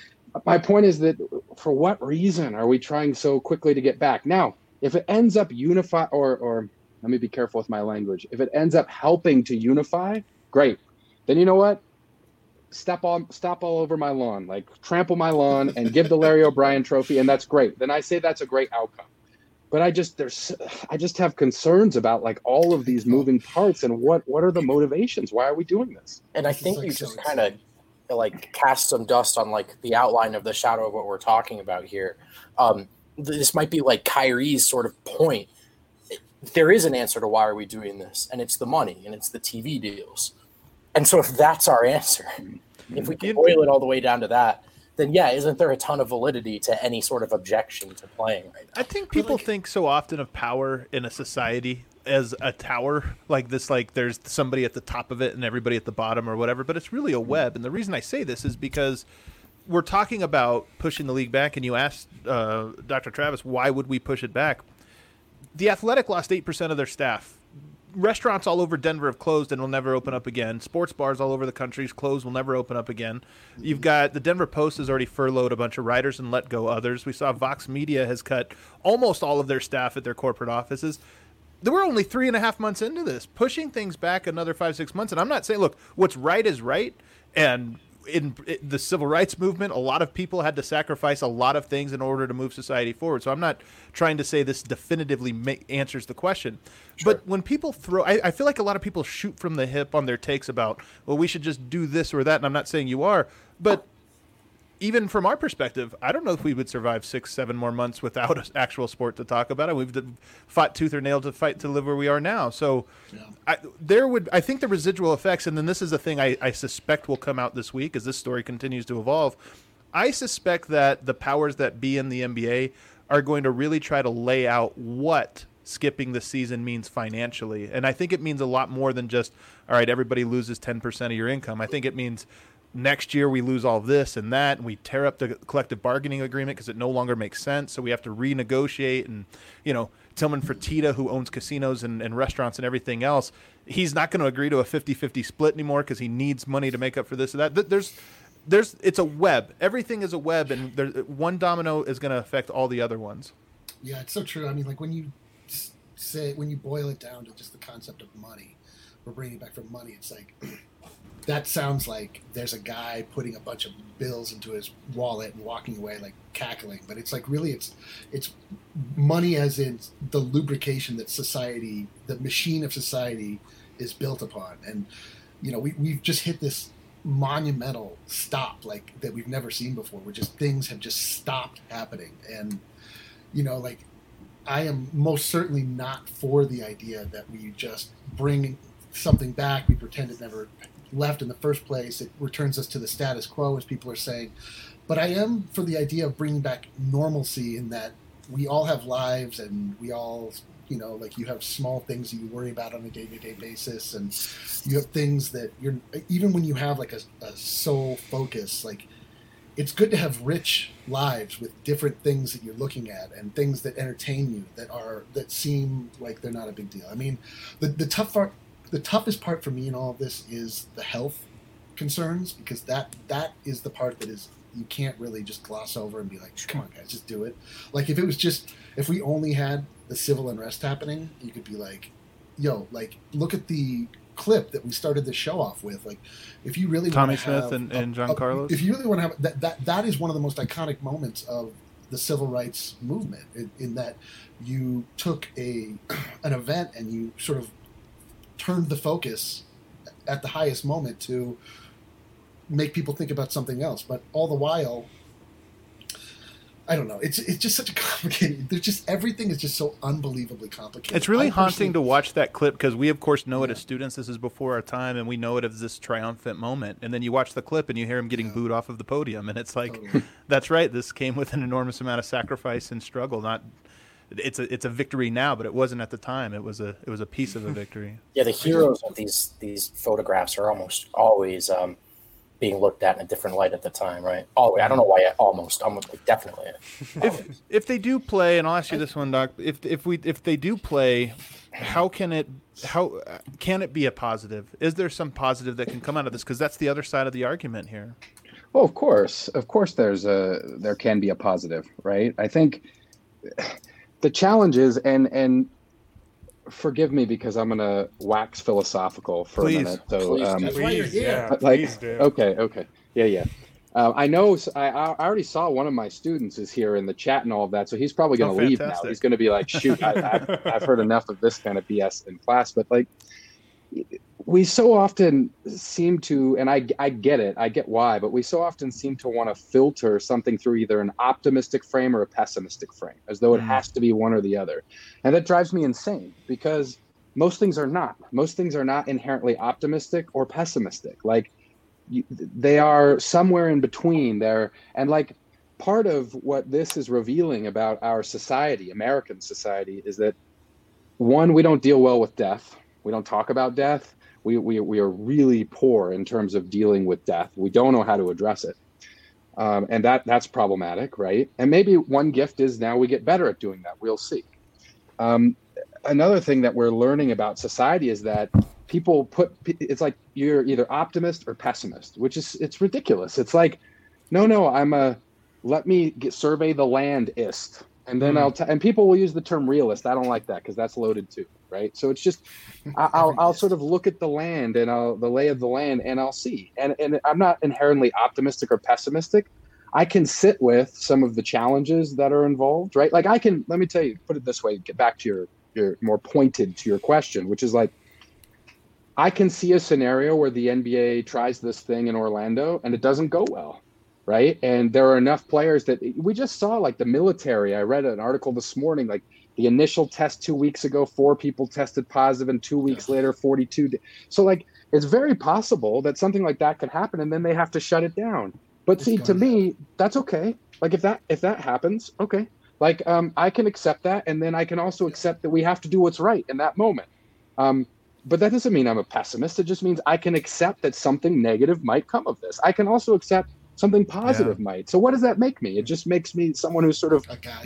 Speaker 6: my point is that for what reason are we trying so quickly to get back? Now, if it ends up unify or, or let me be careful with my language. If it ends up helping to unify, great. Then you know what? Step on, stop all over my lawn, like trample my lawn and give the Larry O'Brien trophy. And that's great. Then I say that's a great outcome. But I just, there's, I just have concerns about like all of these moving parts and what, what are the motivations? Why are we doing this?
Speaker 5: And I
Speaker 4: This is,
Speaker 5: think
Speaker 4: like,
Speaker 5: you
Speaker 4: so
Speaker 5: just kind of
Speaker 4: insane.
Speaker 5: like cast some dust on like the outline of the shadow of what we're talking about here. Um, this might be like Kyrie's sort of point. There is an answer to why are we doing this, and it's the money and it's the T V deals. And so if that's our answer, if we can boil it all the way down to that, then yeah, isn't there a ton of validity to any sort of objection to playing right now?
Speaker 3: I think people think so often of power in a society as a tower, like this, like there's somebody at the top of it and everybody at the bottom or whatever, but it's really a web. And the reason I say this is because we're talking about pushing the league back, and you asked uh, Doctor Travis, why would we push it back? The Athletic lost eight percent of their staff. Restaurants all over Denver have closed and will never open up again. Sports bars all over the country closed, will never open up again. You've got the Denver Post has already furloughed a bunch of writers and let go others. We saw Vox Media has cut almost all of their staff at their corporate offices. There were only three and a half months into this, pushing things back another five, six months. And I'm not saying, look, what's right is right. And in the civil rights movement, a lot of people had to sacrifice a lot of things in order to move society forward. So I'm not trying to say this definitively ma- answers the question.
Speaker 5: Sure.
Speaker 3: But when people throw, I, I feel like a lot of people shoot from the hip on their takes about, well, we should just do this or that. And I'm not saying you are, but even from our perspective, I don't know if we would survive six, seven more months without an actual sport to talk about. And we've fought tooth or nail to fight to live where we are now. So yeah. I, there would, I think the residual effects, and then this is the thing I, I suspect will come out this week as this story continues to evolve. I suspect that the powers that be in the N B A are going to really try to lay out what skipping the season means financially. And I think it means a lot more than just, all right, everybody loses ten percent of your income. I think it means next year we lose all this and that, and we tear up the collective bargaining agreement because it no longer makes sense. So we have to renegotiate. And, you know, Tillman Fertitta, who owns casinos and, and restaurants and everything else, he's not going to agree to a fifty-fifty split anymore because he needs money to make up for this or that. There's, there's, it's a web. Everything is a web, and there, one domino is going to affect all the other ones.
Speaker 4: Yeah, it's so true. I mean, like when you say, when you boil it down to just the concept of money, we're bringing it back from money. It's like, that sounds like there's a guy putting a bunch of bills into his wallet and walking away like cackling. But it's like really it's it's money as in the lubrication that society, the machine of society is built upon. And, you know, we, we've just hit this monumental stop like that we've never seen before, where just things have just stopped happening. And, you know, like I am most certainly not for the idea that we just bring something back, we pretend it never left in the first place, it returns us to the status quo, as people are saying. But I am for the idea of bringing back normalcy, in that we all have lives and we all, you know, like you have small things that you worry about on a day-to-day basis, and you have things that you're, even when you have like a, a sole focus, like it's good to have rich lives with different things that you're looking at and things that entertain you that are, that seem like they're not a big deal. I mean, the, the tough part, the toughest part for me in all of this is the health concerns, because that that is the part that is, you can't really just gloss over and be like, come on guys, just do it. Like if it was just, if we only had the civil unrest happening, you could be like, yo, like look at the clip that we started the show off with. Like if you really
Speaker 3: Tommy
Speaker 4: want to
Speaker 3: Smith
Speaker 4: have
Speaker 3: and,
Speaker 4: a,
Speaker 3: and John
Speaker 4: a,
Speaker 3: Carlos,
Speaker 4: if you really want to have that, that that is one of the most iconic moments of the civil rights movement, in, in that you took a an event and you sort of turned the focus at the highest moment to make people think about something else. But all the while, I don't know. It's it's just such a complicated. There's just everything is just so unbelievably complicated.
Speaker 3: It's really
Speaker 4: I
Speaker 3: haunting to watch that clip, because we of course know
Speaker 4: yeah.
Speaker 3: it as students. This is before our time, and we know it as this triumphant moment. And then you watch the clip and you hear him getting yeah. booed off of the podium, and it's like, totally. That's right. This came with an enormous amount of sacrifice and struggle. Not. It's a it's a victory now, but it wasn't at the time. It was a it was a piece of a victory.
Speaker 5: Yeah, the heroes of these these photographs are almost always um, being looked at in a different light at the time, right? Always. I don't know why. I almost, almost like definitely.
Speaker 3: If if they do play, and I'll ask you this one, Doc. If if we if they do play, how can it how can it be a positive? Is there some positive that can come out of this? Because that's the other side of the argument here.
Speaker 6: Well, of course, of course, there's a there can be a positive, right? I think. The challenge is, and and forgive me because I'm gonna wax philosophical for
Speaker 3: please.
Speaker 6: a minute. So
Speaker 5: Please,
Speaker 6: um,
Speaker 4: that's why you're here.
Speaker 1: Yeah,
Speaker 6: like,
Speaker 1: please do.
Speaker 6: Okay, okay, yeah, yeah. Uh, I know. I I already saw one of my students is here in the chat and all of that, so he's probably gonna
Speaker 3: Oh,
Speaker 6: leave now.
Speaker 3: fantastic.
Speaker 6: He's gonna be like, shoot, I, I've I've heard enough of this kind of B S in class. But like, we so often seem to, and I, I get it, I get why, but we so often seem to want to filter something through either an optimistic frame or a pessimistic frame, as though it
Speaker 3: Mm.
Speaker 6: has to be one or the other. And that drives me insane, because most things are not. Most things are not inherently optimistic or pessimistic. Like, you, they are somewhere in between there. And like, part of what this is revealing about our society, American society, is that, one, we don't deal well with death. We don't talk about death. We, we we are really poor in terms of dealing with death. We don't know how to address it. Um, and that that's problematic, right? And maybe one gift is now we get better at doing that. We'll see. Um, another thing that we're learning about society is that people put, it's like you're either optimist or pessimist, which is, it's ridiculous. It's like, no, no, I'm a, let me get, survey the landist. And then mm. I'll, t- and people will use the term realist. I don't like that because that's loaded too, right? So it's just, I- I'll, I'll sort of look at the land and I'll, the lay of the land, and I'll see. And and I'm not inherently optimistic or pessimistic. I can sit with some of the challenges that are involved, right? Like I can, let me tell you, put it this way, get back to your, your more pointed to your question, which is like, I can see a scenario where the N B A tries this thing in Orlando and it doesn't go well. right? And there are enough players that we just saw, like the military. I read an article this morning, like the initial test two weeks ago, four people tested positive, and two weeks later, forty-two. So like, it's very possible that something like that could happen, and then they have to shut it down. But see, to me, that's okay. Like if that if that happens, okay. Like um, I can accept that, and then I can also accept that we have to do what's right in that moment. Um, but that doesn't mean I'm a pessimist. It just means I can accept that something negative might come of this. I can also accept something positive yeah. might. So what does that make me? It just makes me someone who sort of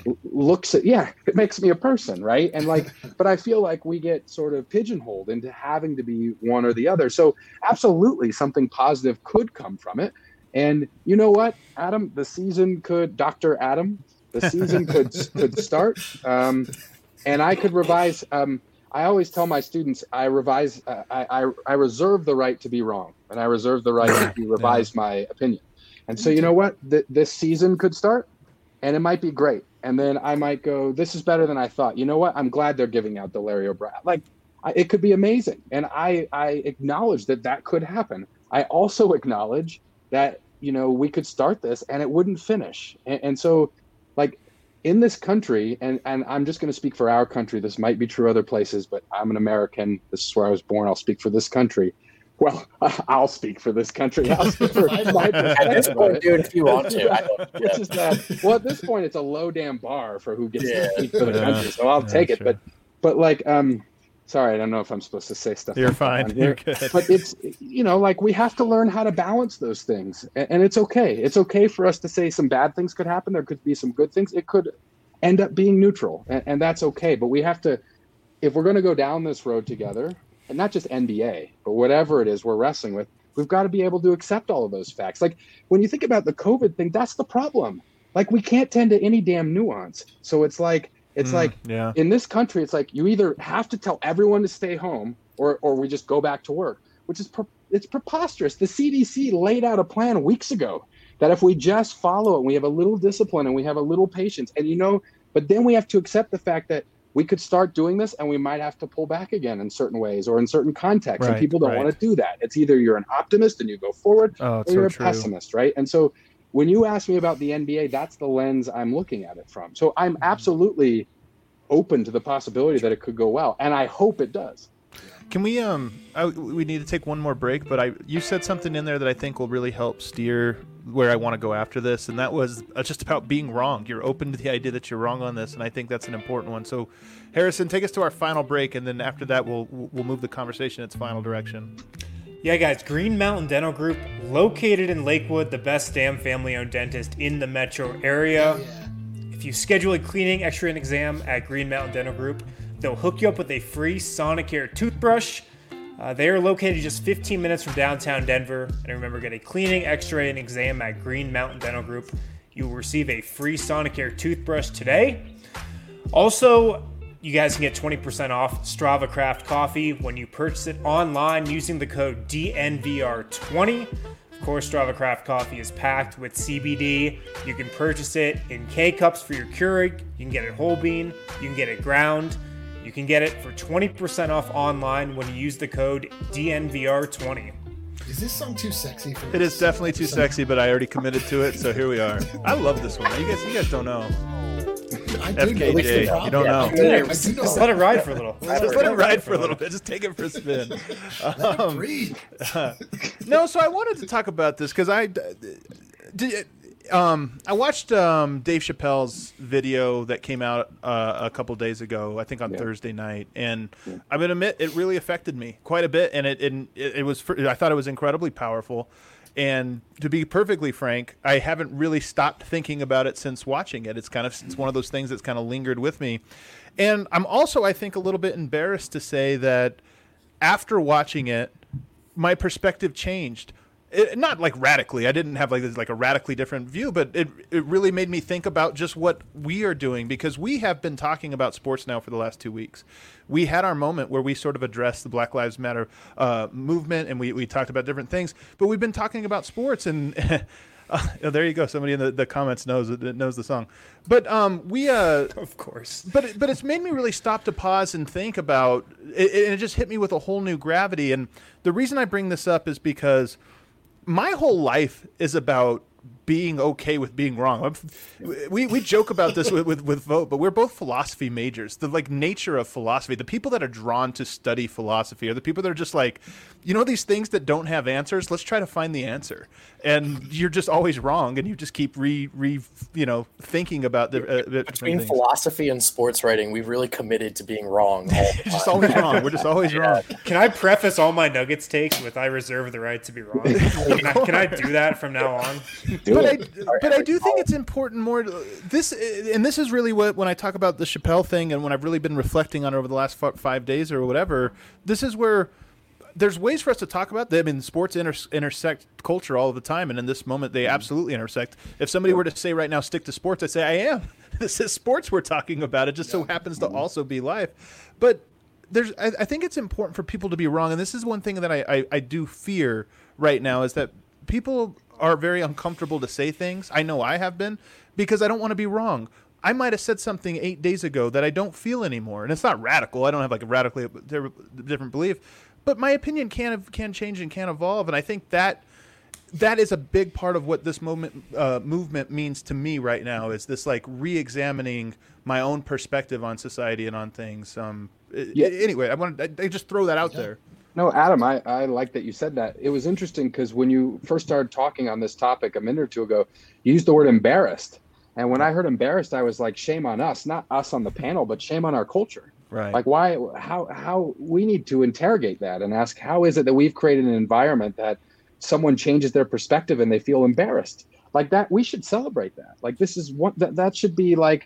Speaker 6: looks at, yeah, it makes me a person, right? And like, but I feel like we get sort of pigeonholed into having to be one or the other. So absolutely something positive could come from it. And you know what, Adam, the season could, Doctor Adam, the season could could start, um, and I could revise. Um, I always tell my students, I revise, uh, I, I I reserve the right to be wrong, and I reserve the right to revise yeah. my opinion. And so, you know what, Th- this season could start, and it might be great. And then I might go, this is better than I thought. You know what? I'm glad they're giving out Delario Brad. Like, I, it could be amazing, and I I acknowledge that that could happen. I also acknowledge that, you know, we could start this and it wouldn't finish. And, and so, like, in this country, and, and I'm just going to speak for our country. This might be true other places, but I'm an American. This is where I was born. I'll speak for this country. Well, I'll speak for this country. I'll speak for my
Speaker 5: At this point, dude, if you want to. I don't,
Speaker 6: yeah. It's just that, well, at this point, it's a low damn bar for who gets yeah. to speak for the country. So I'll yeah, take it. Sure. But, but like, um, sorry, I don't know if I'm supposed to say stuff.
Speaker 3: You're
Speaker 6: like
Speaker 3: fine. You're good.
Speaker 6: But it's, you know, like we have to learn how to balance those things. And, and it's okay. It's okay for us to say some bad things could happen. There could be some good things. It could end up being neutral. And, and that's okay. But we have to, if we're going to go down this road together, and not just N B A, but whatever it is we're wrestling with, we've got to be able to accept all of those facts. Like when you think about the COVID thing, that's the problem. Like we can't tend to any damn nuance. So it's like, It's mm, like yeah. in this country, it's like you either have to tell everyone to stay home or, or we just go back to work, which is pre- it's preposterous. The C D C laid out a plan weeks ago that if we just follow it, and we have a little discipline and we have a little patience, and you know, but then we have to accept the fact that we could start doing this and we might have to pull back again in certain ways or in certain contexts. Right, and people don't right. want to do that. It's either you're an optimist and you go forward oh, or you're so a true. pessimist, right? And so when you ask me about the N B A, that's the lens I'm looking at it from. So I'm absolutely open to the possibility that it could go well, and I hope it does.
Speaker 3: Can we um I, we need to take one more break, but I you said something in there that I think will really help steer where I want to go after this, and that was uh, just about being wrong. You're open to the idea that you're wrong on this, and I think that's an important one. So Harrison, take us to our final break, and then after that we'll we'll move the conversation in its final direction.
Speaker 1: Yeah, guys, Green Mountain Dental Group, located in Lakewood, the best damn family-owned dentist in the metro area. Yeah. If you schedule a cleaning, x-ray, and exam at Green Mountain Dental Group, they'll hook you up with a free Sonicare toothbrush. Uh, they are located just fifteen minutes from downtown Denver. And remember, get a cleaning, x-ray, and exam at Green Mountain Dental Group. You will receive a free Sonicare toothbrush today. Also, you guys can get twenty percent off Strava Craft Coffee when you purchase it online using the code D N V R twenty. Of course, Strava Craft Coffee is packed with C B D. You can purchase it in K-Cups for your Keurig. You can get it whole bean. You can get it ground. You can get it for twenty percent off online when you use the code D N V R twenty.
Speaker 4: Is this song too sexy for
Speaker 3: It is definitely too sexy, but I already committed to it, so here we are. I love this one. You guys, you guys don't know.
Speaker 4: I
Speaker 3: F K J, you don't know.
Speaker 1: Yeah, just, just let it ride for a little.
Speaker 3: Just, just let it ride for a little bit. Just take it for a spin.
Speaker 4: Let um, it breathe.
Speaker 3: uh, no, so I wanted to talk about this because I did. Um, I watched um, Dave Chappelle's video that came out uh, a couple days ago, I think on yeah. Thursday night, and yeah. I'm gonna admit it really affected me quite a bit, and it it, it was I thought it was incredibly powerful. And to be perfectly frank, I haven't really stopped thinking about it since watching it. It's kind of it's one of those things that's kind of lingered with me. And I'm also, I think, a little bit embarrassed to say that after watching it, my perspective changed. It, not like radically. I didn't have like this, like a radically different view, but it it really made me think about just what we are doing, because we have been talking about sports now for the last two weeks. We had our moment where we sort of addressed the Black Lives Matter uh, movement, and we, we talked about different things, but we've been talking about sports, and uh, oh, there you go. Somebody in the, the comments knows knows the song. But um, we uh,
Speaker 1: of course.
Speaker 3: But but it's made me really stop to pause and think about it, and it just hit me with a whole new gravity. And the reason I bring this up is because my whole life is about being okay with being wrong. I'm, we we joke about this with, with with Vogt, but we're both philosophy majors. The like nature of philosophy, the people that are drawn to study philosophy are the people that are just like, you know, these things that don't have answers. Let's try to find the answer, and you're just always wrong, and you just keep re re you know thinking about the uh,
Speaker 5: between philosophy and sports writing, we've really committed to being wrong. All the
Speaker 3: just always wrong. We're just always yeah. wrong.
Speaker 1: Can I preface all my Nuggets takes with I reserve the right to be wrong? Can I, can I do that from now on?
Speaker 3: Do but it. I but I do think it's important more to, this and this is really what when I talk about the Chappelle thing and when I've really been reflecting on it over the last f- five days or whatever, this is where there's ways for us to talk about them. I mean, sports inter- intersect culture all the time, and in this moment they absolutely intersect. If somebody were to say right now, stick to sports, I'd say I am. This is sports we're talking about. It just so happens to also be life. But there's I, I think it's important for people to be wrong, and this is one thing that I, I, I do fear right now is that people are very uncomfortable to say things. I know I have been because I don't want to be wrong. I might have said something eight days ago that I don't feel anymore, and it's not radical. I don't have like a radically different belief, but my opinion can can change and can evolve, and I think that that is a big part of what this moment uh, movement means to me right now. Is this like re-examining my own perspective on society and on things. Um, yeah. Anyway, I want I, I just throw that out yeah. there.
Speaker 6: No, Adam, I, I like that you said that. It was interesting because when you first started talking on this topic a minute or two ago, you used the word embarrassed. And when I heard embarrassed, I was like, shame on us, not us on the panel, but shame on our culture.
Speaker 3: Right.
Speaker 6: Like why, how, how we need to interrogate that and ask, how is it that we've created an environment that someone changes their perspective and they feel embarrassed like that? We should celebrate that. Like, this is what that, that should be like.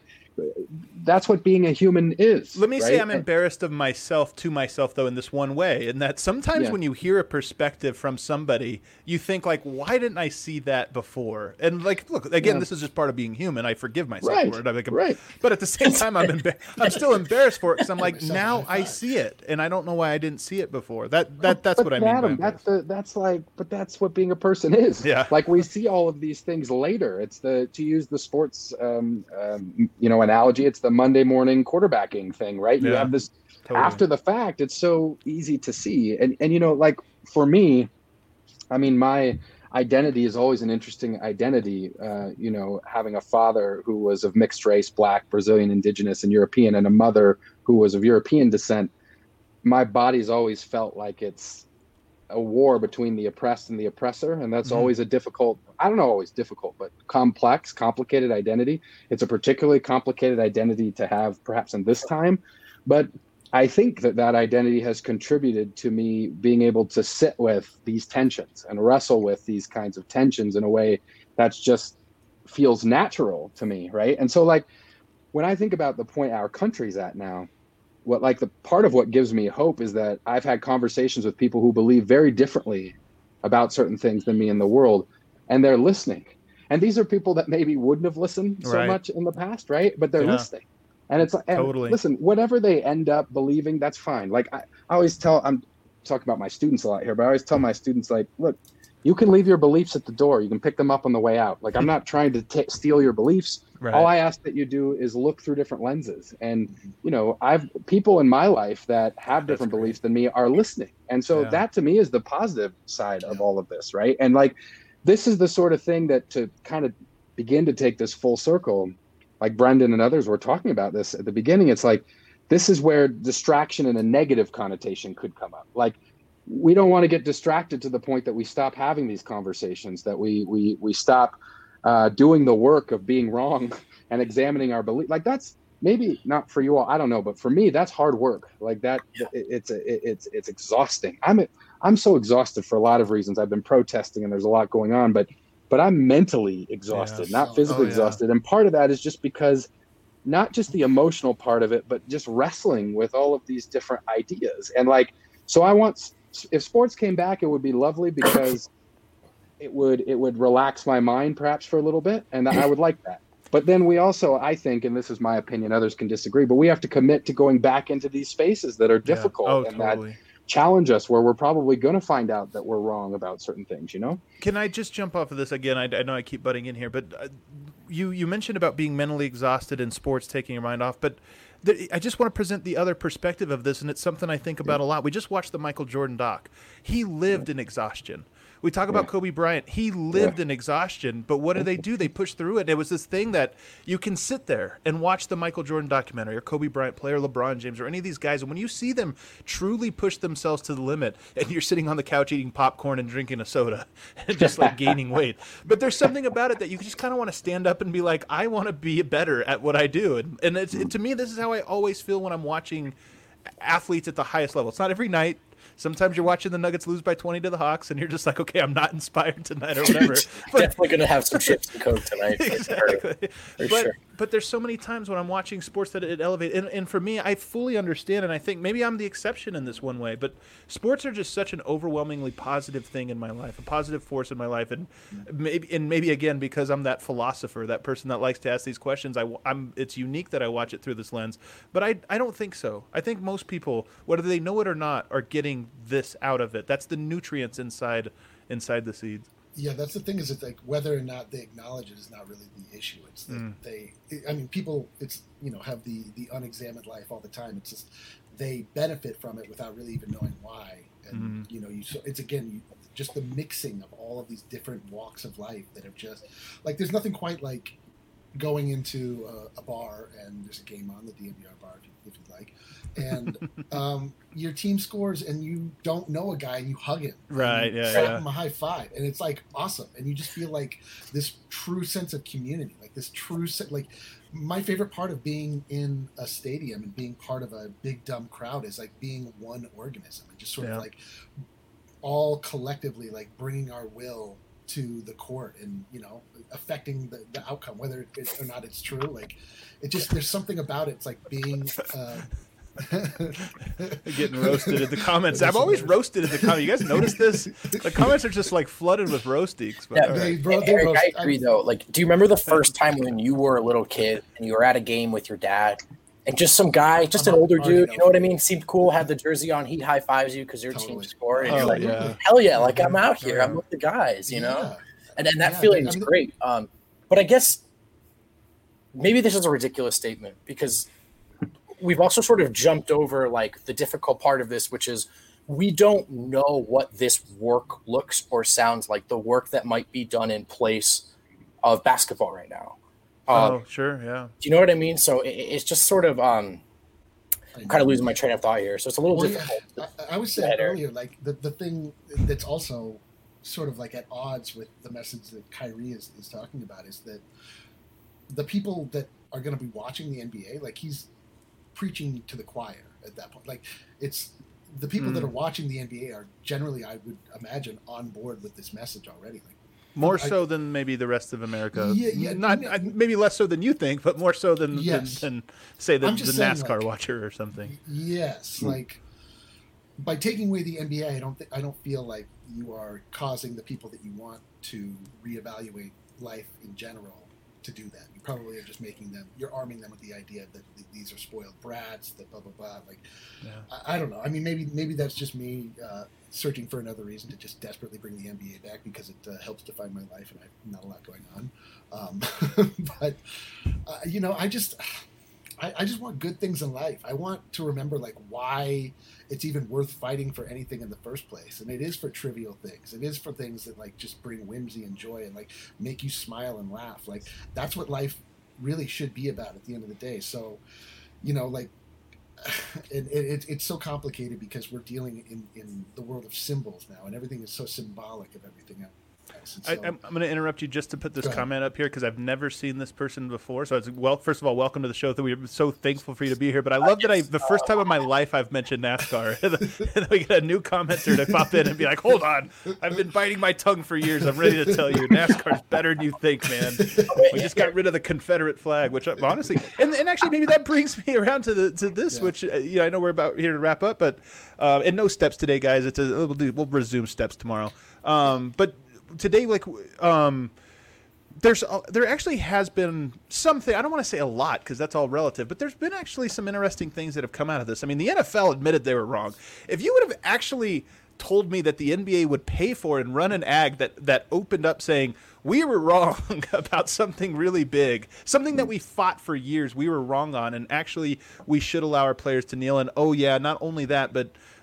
Speaker 6: That's what being a human is.
Speaker 3: Let me
Speaker 6: right?
Speaker 3: say I'm embarrassed of myself to myself, though, in this one way, in that sometimes yeah. when you hear a perspective from somebody, you think like, why didn't I see that before? And like, look, again, yeah. this is just part of being human. I forgive myself
Speaker 6: right.
Speaker 3: for it. I'm like,
Speaker 6: right.
Speaker 3: But at the same time, I'm embar- I'm still embarrassed for it because I'm like, now I see it, and I don't know why I didn't see it before. That that that's
Speaker 6: but
Speaker 3: what I mean.
Speaker 6: Adam,
Speaker 3: by
Speaker 6: that's the that's like, but that's what being a person is.
Speaker 3: Yeah.
Speaker 6: Like we see all of these things later. It's the to use the sports, um, um, you know, analogy. It's the Monday morning quarterbacking thing, right? You
Speaker 3: yeah,
Speaker 6: have this
Speaker 3: totally.
Speaker 6: After the fact, it's so easy to see. And, and, you know, like for me, I mean, my identity is always an interesting identity. Uh, you know, having a father who was of mixed race, Black, Brazilian, Indigenous, and European, and a mother who was of European descent. My body's always felt like it's a war between the oppressed and the oppressor. And that's mm-hmm. always a difficult, I don't know, always difficult, but complex, complicated identity. It's a particularly complicated identity to have perhaps in this time. But I think that that identity has contributed to me being able to sit with these tensions and wrestle with these kinds of tensions in a way that's just feels natural to me. Right. And so like, when I think about the point our country's at now, what like the part of what gives me hope is that I've had conversations with people who believe very differently about certain things than me in the world, and they're listening. And these are people that maybe wouldn't have listened so
Speaker 3: right.
Speaker 6: much in the past, right? But they're
Speaker 3: yeah.
Speaker 6: listening. And it's like, and
Speaker 3: totally.
Speaker 6: Listen, whatever they end up believing, that's fine. Like I, I always tell, I'm talking about my students a lot here, but I always tell my students, like, look, you can leave your beliefs at the door. You can pick them up on the way out. Like, I'm not trying to t- steal your beliefs.
Speaker 3: Right.
Speaker 6: All I ask that you do is look through different lenses. And, you know, I've people in my life that have different beliefs than me are listening. And so
Speaker 3: yeah.
Speaker 6: that to me is the positive side of all of this. Right. And like, this is the sort of thing that to kind of begin to take this full circle, like Brendan and others were talking about this at the beginning. It's like, this is where distraction and a negative connotation could come up. Like, we don't want to get distracted to the point that we stop having these conversations, that we we we stop uh, doing the work of being wrong and examining our belief. Like, that's maybe not for you all, I don't know, but for me, that's hard work. Like that, yeah. it, it's it, it's it's exhausting. I'm I'm so exhausted for a lot of reasons. I've been protesting, and there's a lot going on, but but I'm mentally exhausted,
Speaker 3: yeah.
Speaker 6: not physically
Speaker 3: oh, yeah.
Speaker 6: exhausted. And part of that is just because, not just the emotional part of it, but just wrestling with all of these different ideas. And like, so I want. If sports came back, it would be lovely because it would it would relax my mind perhaps for a little bit, and I would like that. But then we also, I think, and this is my opinion, others can disagree, but we have to commit to going back into these spaces that are difficult
Speaker 3: yeah. oh,
Speaker 6: and
Speaker 3: totally.
Speaker 6: that challenge us, where we're probably going to find out that we're wrong about certain things, you know?
Speaker 3: Can I just jump off of this again? I, I know I keep butting in here, but uh, you, you mentioned about being mentally exhausted in sports, taking your mind off, but I just want to present the other perspective of this, and it's something I think about a lot. We just watched the Michael Jordan doc. He lived in exhaustion. We talk about
Speaker 6: Yeah.
Speaker 3: Kobe Bryant. He lived
Speaker 6: Yeah.
Speaker 3: in exhaustion, but what do they do? They push through it. It was this thing that you can sit there and watch the Michael Jordan documentary or Kobe Bryant play or LeBron James or any of these guys. And when you see them truly push themselves to the limit and you're sitting on the couch eating popcorn and drinking a soda and just like gaining weight. But there's something about it that you just kind of want to stand up and be like, I want to be better at what I do. And, and it's, it, to me, this is how I always feel when I'm watching athletes at the highest level. It's not every night. Sometimes you're watching the Nuggets lose by twenty to the Hawks, and you're just like, okay, I'm not inspired tonight or whatever. But,
Speaker 5: Definitely going to have some chips and Coke tonight. For
Speaker 3: exactly.
Speaker 5: For
Speaker 3: but,
Speaker 5: sure.
Speaker 3: but there's so many times when I'm watching sports that it elevates. And, and for me, I fully understand, and I think maybe I'm the exception in this one way, but sports are just such an overwhelmingly positive thing in my life, a positive force in my life. And maybe, and maybe again, because I'm that philosopher, that person that likes to ask these questions, I, I'm, it's unique that I watch it through this lens. But I, I don't think so. I think most people, whether they know it or not, are getting this out of it. That's the nutrients inside inside the seeds.
Speaker 4: Yeah, that's the thing. Is it's like whether or not they acknowledge it is not really the issue. It's that
Speaker 3: Mm.
Speaker 4: they. I mean, people. It's you know have the the unexamined life all the time. It's just they benefit from it without really even knowing why. And
Speaker 3: Mhm.
Speaker 4: you know, you. So it's again, you, just the mixing of all of these different walks of life that have just like. There's nothing quite like going into a, a bar and there's a game on the D N V R bar if, you, if you'd like, and um, your team scores and you don't know a guy and you hug him,
Speaker 3: Right,
Speaker 4: and you
Speaker 3: yeah,
Speaker 4: slap
Speaker 3: yeah.
Speaker 4: him a high five, and it's like awesome, and you just feel like this true sense of community, like this true se- like. My favorite part of being in a stadium and being part of a big dumb crowd is like being one organism and just sort
Speaker 3: Yeah.
Speaker 4: of like all collectively like bringing our will to the court and you know affecting the, the outcome whether it, or not it's true. Like it just there's something about it. It's like being uh
Speaker 3: Getting roasted in the comments. I'm always roasted in the comments. You guys notice this? The comments are just like flooded with roasties. But,
Speaker 5: Yeah,
Speaker 3: all right.
Speaker 4: they, bro, they
Speaker 5: Eric,
Speaker 4: roast-
Speaker 5: I agree though. Like, do you remember the first time when you were a little kid and you were at a game with your dad, and just some guy, just an
Speaker 4: I'm
Speaker 5: older
Speaker 4: already
Speaker 5: dude,
Speaker 4: know.
Speaker 5: you know what I mean? Seemed cool, had the jersey on, he high fives you because your team
Speaker 4: Totally.
Speaker 5: scored, and
Speaker 3: Oh,
Speaker 5: you're like,
Speaker 3: yeah.
Speaker 5: hell yeah, like I'm out here,
Speaker 4: Yeah.
Speaker 5: I'm with the guys, you know,
Speaker 4: Yeah.
Speaker 5: and and that
Speaker 4: Yeah,
Speaker 5: feeling
Speaker 4: I
Speaker 5: is
Speaker 4: mean-
Speaker 5: great. Um, but I guess maybe this is a ridiculous statement because we've also sort of jumped over like the difficult part of this, which is we don't know what this work looks or sounds like, the work that might be done in place of basketball right now. Um,
Speaker 3: Oh, sure, yeah.
Speaker 5: Do you know what I mean? So it, it's just sort of um, I'm kind of losing my train of thought here. So it's a little
Speaker 4: Well, yeah,
Speaker 5: difficult.
Speaker 4: I, I was
Speaker 5: Go
Speaker 4: saying
Speaker 5: ahead, Eric.
Speaker 4: earlier, like the, the thing that's also sort of like at odds with the message that Kyrie is, is talking about is that the people that are going to be watching the N B A, like he's preaching to the choir at that point. Like it's the people
Speaker 3: Mm.
Speaker 4: that are watching the N B A are generally, I would imagine, on board with this message already. Like
Speaker 3: More
Speaker 4: I-
Speaker 3: so than maybe the rest of America.
Speaker 4: Yeah, yeah,
Speaker 3: Not
Speaker 4: no,
Speaker 3: I- maybe less so than you think, but more so than
Speaker 4: Yes.
Speaker 3: than, than say the,
Speaker 4: I'm
Speaker 3: the
Speaker 4: just saying,
Speaker 3: NASCAR
Speaker 4: like-
Speaker 3: watcher or something.
Speaker 4: Yes, like by taking away the N B A, I don't think I don't feel like you are causing the people that you want to reevaluate life in general to do that. You probably are just making them. You're arming them with the idea that th- these are spoiled brats. That blah blah blah. Like
Speaker 3: Yeah.
Speaker 4: I, I don't know. I mean, maybe maybe that's just me uh, searching for another reason to just desperately bring the N B A back because it uh, helps define my life and I've not a lot going on. Um, but uh, you know, I just. I, I just want good things in life. I want to remember like why it's even worth fighting for anything in the first place. And it is for trivial things. It is for things that like just bring whimsy and joy and like make you smile and laugh. Like that's what life really should be about at the end of the day. So, you know, like it, it, it's so complicated because we're dealing in, in the world of symbols now and everything is so symbolic of everything else. And
Speaker 3: I,
Speaker 4: so-
Speaker 3: I'm, I'm going to interrupt you just to put this
Speaker 4: Go ahead.
Speaker 3: comment up here because I've never seen this person before. So it's well, first of all, welcome to the show. That we're so thankful for you to be here. But I love that I the first time in my life I've mentioned NASCAR, and then we get a new commenter to pop in and be like, "Hold on, I've been biting my tongue for years. I'm ready to tell you, NASCAR's better than you think, man. We just got rid of the Confederate flag, which I- honestly, and, and actually maybe that brings me around to the to this,
Speaker 4: Yeah.
Speaker 3: which uh, you know I know we're about here to wrap up, but uh, and no steps today, guys. It's a, we'll do we'll resume steps tomorrow. Um, but today, like, um, there's a, there actually has been something. I don't want to say a lot because that's all relative, but there's been actually some interesting things that have come out of this. I mean, the N F L admitted they were wrong. If you would have actually told me that the N B A would pay for and run an ad that that opened up saying we were wrong about something really big, something that we fought for years, we were wrong on, and actually we should allow our players to kneel. And oh yeah, not only that, but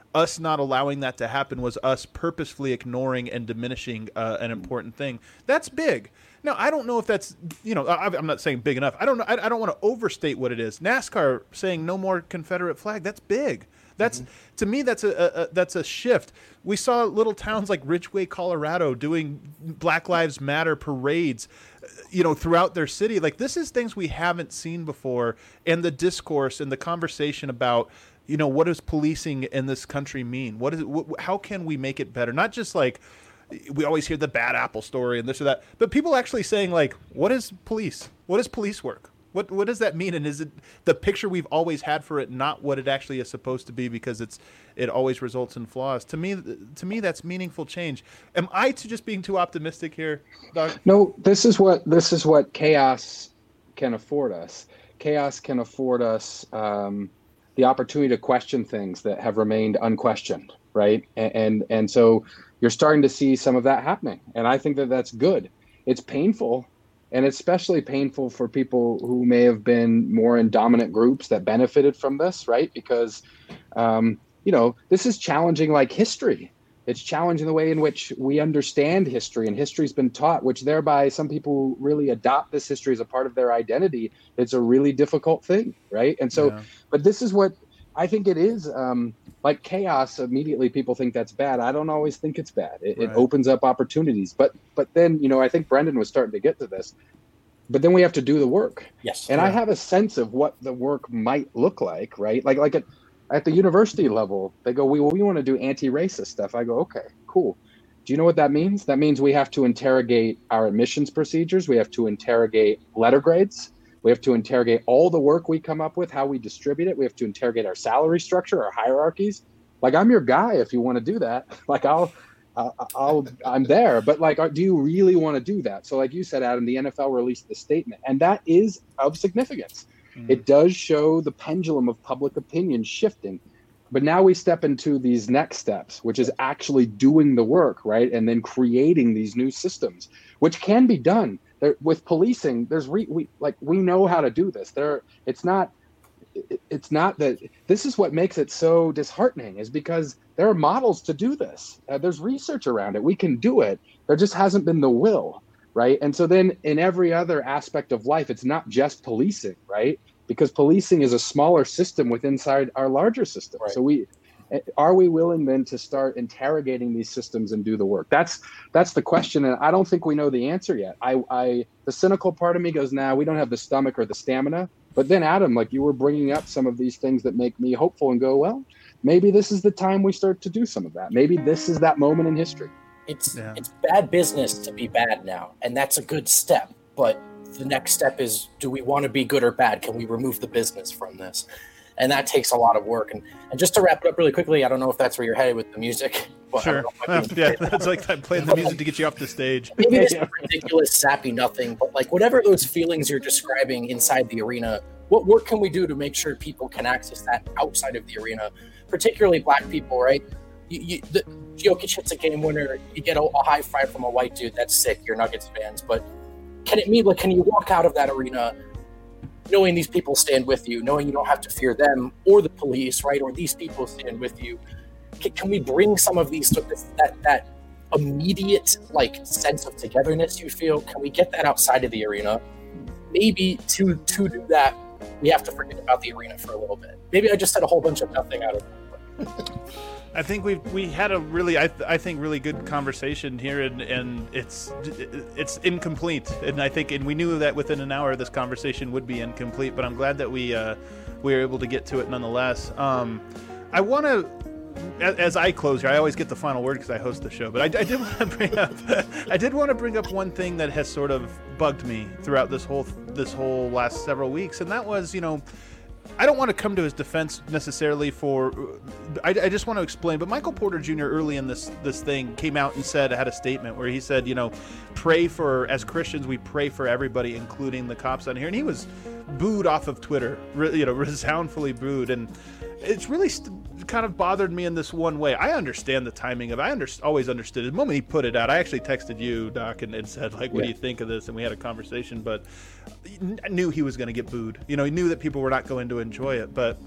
Speaker 3: us not allowing that to happen was us purposefully ignoring and diminishing uh, an important thing. That's big. Now, I don't know if that's, you know, I, I'm not saying big enough. I don't know. I, I don't want to overstate what it is. NASCAR saying no more Confederate flag. That's big. That's mm-hmm. to me, that's a, a, a that's a shift. We saw little towns like Ridgway, Colorado, doing Black Lives Matter parades, you know, throughout their city. Like, this is things we haven't seen before, and the discourse and the conversation about, you know, what does policing in this country mean? What is it? Wh- how can we make it better? Not just like we always hear the bad apple story and this or that, but people actually saying, like, what is police? What is police work? What what does that mean? And is it the picture we've always had for it, not what it actually is supposed to be, because it's it always results in flaws? To me, to me, that's meaningful change. Am I to just being too optimistic here, Doc?
Speaker 6: No, this is what this is what chaos can afford us. Chaos can afford us um, the opportunity to question things that have remained unquestioned, right? And, and and so you're starting to see some of that happening, and I think that that's good. It's painful. And especially painful for people who may have been more in dominant groups that benefited from this, right? Because, um, you know, this is challenging like history. It's challenging the way in which we understand history, and history's been taught, which thereby some people really adopt this history as a part of their identity. It's a really difficult thing, right? And so, yeah. But this is what I think it is. Um, like chaos, immediately people think that's bad. I don't always think it's bad. It, right. it opens up opportunities. But but then, you know, I think Brendan was starting to get to this. But then we have to do the work.
Speaker 5: Yes.
Speaker 6: And
Speaker 5: yeah.
Speaker 6: I have a sense of what the work might look like, right? Like like at, at the university level, they go, we well, we want to do anti-racist stuff. I go, okay, cool. Do you know what that means? That means we have to interrogate our admissions procedures. We have to interrogate letter grades. We have to interrogate all the work we come up with, how we distribute it. We have to interrogate our salary structure, our hierarchies. Like, I'm your guy if you want to do that. Like, I'll, I'll, I'll I'm there. But like, do you really want to do that? So like you said, Adam, the N F L released the statement, and that is of significance. Mm-hmm. It does show the pendulum of public opinion shifting. But now we step into these next steps, which is actually doing the work, right? And then creating these new systems, which can be done. There, with policing, there's re, we like we know how to do this. There, it's not, it, it's not that. This is what makes it so disheartening, is because there are models to do this. Uh, there's research around it. We can do it. There just hasn't been the will, right? And so then, in every other aspect of life, it's not just policing, right? Because policing is a smaller system within inside our larger system. Right. So we. Are we willing then to start interrogating these systems and do the work? That's that's the question, and I don't think we know the answer yet. I, I the cynical part of me goes, nah, we don't have the stomach or the stamina. But then, Adam, like you were bringing up some of these things that make me hopeful and go, well, maybe this is the time we start to do some of that. Maybe this is that moment in history.
Speaker 5: It's
Speaker 3: yeah.
Speaker 5: it's bad business to be bad now, and that's a good step. But the next step is, do we want to be good or bad? Can we remove the business from this? And that takes a lot of work. And, and just to wrap it up really quickly, I don't know if that's where you're headed with the music. But
Speaker 3: sure.
Speaker 5: Know,
Speaker 3: yeah, that's like I'm playing the music to get you off the stage.
Speaker 5: Maybe this is ridiculous, sappy nothing, but like whatever those feelings you're describing inside the arena, what work can we do to make sure people can access that outside of the arena, particularly black people, right? You, you, the, Jokic hits a game winner, you get a, a high five from a white dude, that's sick, you're Nuggets fans. But can it mean, like, can you walk out of that arena knowing these people stand with you, knowing you don't have to fear them or the police, right? Or these people stand with you. Can, can we bring some of these, that that immediate like sense of togetherness you feel? Can we get that outside of the arena? Maybe to to do that, we have to forget about the arena for a little bit. Maybe I just said a whole bunch of nothing out of it.
Speaker 3: I think we we had a really I th- I think really good conversation here, and, and it's it's incomplete, and I think and we knew that within an hour this conversation would be incomplete, but I'm glad that we uh, we were able to get to it nonetheless. Um, I want to, as I close here, I always get the final word because I host the show, but I, I did want to bring up I did want to bring up one thing that has sort of bugged me throughout this whole this whole last several weeks, and that was, you know, I don't want to come to his defense necessarily for, I, I just want to explain, but Michael Porter Junior early in this this thing came out and said, had a statement where he said, you know, pray for, as Christians, we pray for everybody, including the cops on here. And he was booed off of Twitter, you know, resoundfully booed. And it's really st- kind of bothered me in this one way. I understand the timing of it. I under- always understood it. The moment he put it out, I actually texted you, Doc, and, and said, like, what yeah. do you think of this? And we had a conversation, but I knew he was going to get booed. You know, he knew that people were not going to enjoy it. But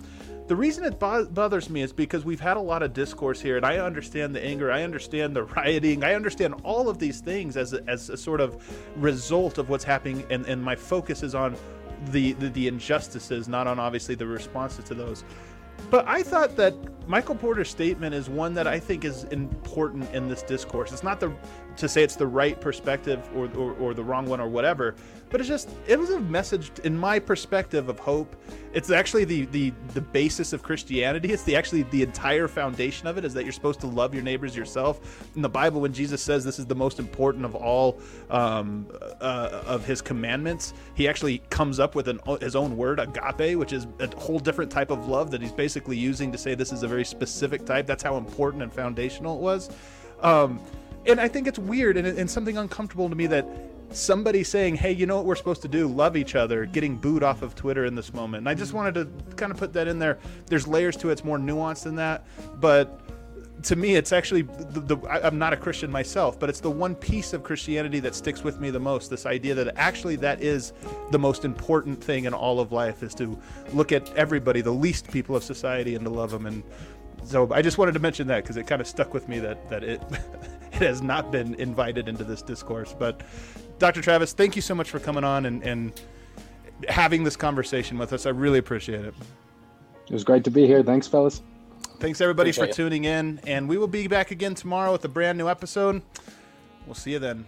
Speaker 3: The reason it bo- bothers me is because we've had a lot of discourse here, and I understand the anger, I understand the rioting, I understand all of these things as a, as a sort of result of what's happening, and, and my focus is on the, the, the injustices, not on obviously the responses to those. But I thought that Michael Porter's statement is one that I think is important in this discourse. It's not the to say it's the right perspective or, or, or the wrong one or whatever, but it's just, it was a message in my perspective of hope. It's actually the, the, the basis of Christianity. It's the actually the entire foundation of it is that you're supposed to love your neighbors yourself. In the Bible, when Jesus says this is the most important of all um, uh, of his commandments, he actually comes up with an, his own word, agape, which is a whole different type of love that he's basically using to say this is a very specific type. That's how important and foundational it was. Um, and I think it's weird and, and something uncomfortable to me that somebody saying, hey, you know what we're supposed to do? Love each other, getting booed off of Twitter in this moment. And I just wanted to kind of put that in there. There's layers to it. It's more nuanced than that. But to me, it's actually, the, the, I'm not a Christian myself, but it's the one piece of Christianity that sticks with me the most. This idea that actually that is the most important thing in all of life, is to look at everybody, the least people of society, and to love them. And so I just wanted to mention that because it kind of stuck with me that, that it, it has not been invited into this discourse. But Doctor Travis, thank you so much for coming on and, and having this conversation with us. I really appreciate it.
Speaker 6: It was great to be here. Thanks, fellas.
Speaker 3: Thanks, everybody,
Speaker 6: Appreciate
Speaker 3: for
Speaker 6: it.
Speaker 3: tuning in. And we will be back again tomorrow with a brand new episode. We'll see you then.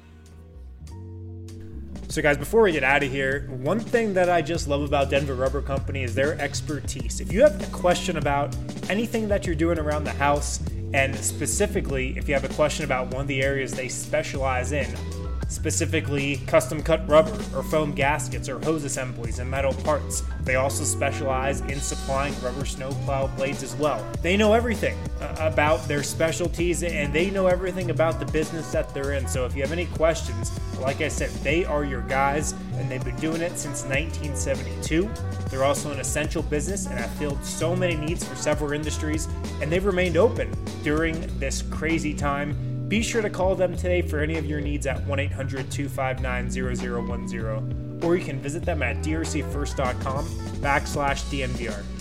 Speaker 1: So guys, before we get out of here, one thing that I just love about Denver Rubber Company is their expertise. If you have a question about anything that you're doing around the house, and specifically if you have a question about one of the areas they specialize in, specifically custom cut rubber or foam gaskets or hose assemblies and metal parts. They also specialize in supplying rubber snowplow blades as well. They know everything uh, about their specialties, and they know everything about the business that they're in. So if you have any questions, like I said, they are your guys, and they've been doing it since nineteen seventy-two. They're also an essential business and have filled so many needs for several industries, and they've remained open during this crazy time. Be sure to call them today for any of your needs at one eight hundred two five nine zero zero one zero, or you can visit them at drcfirst.com backslash DNVR.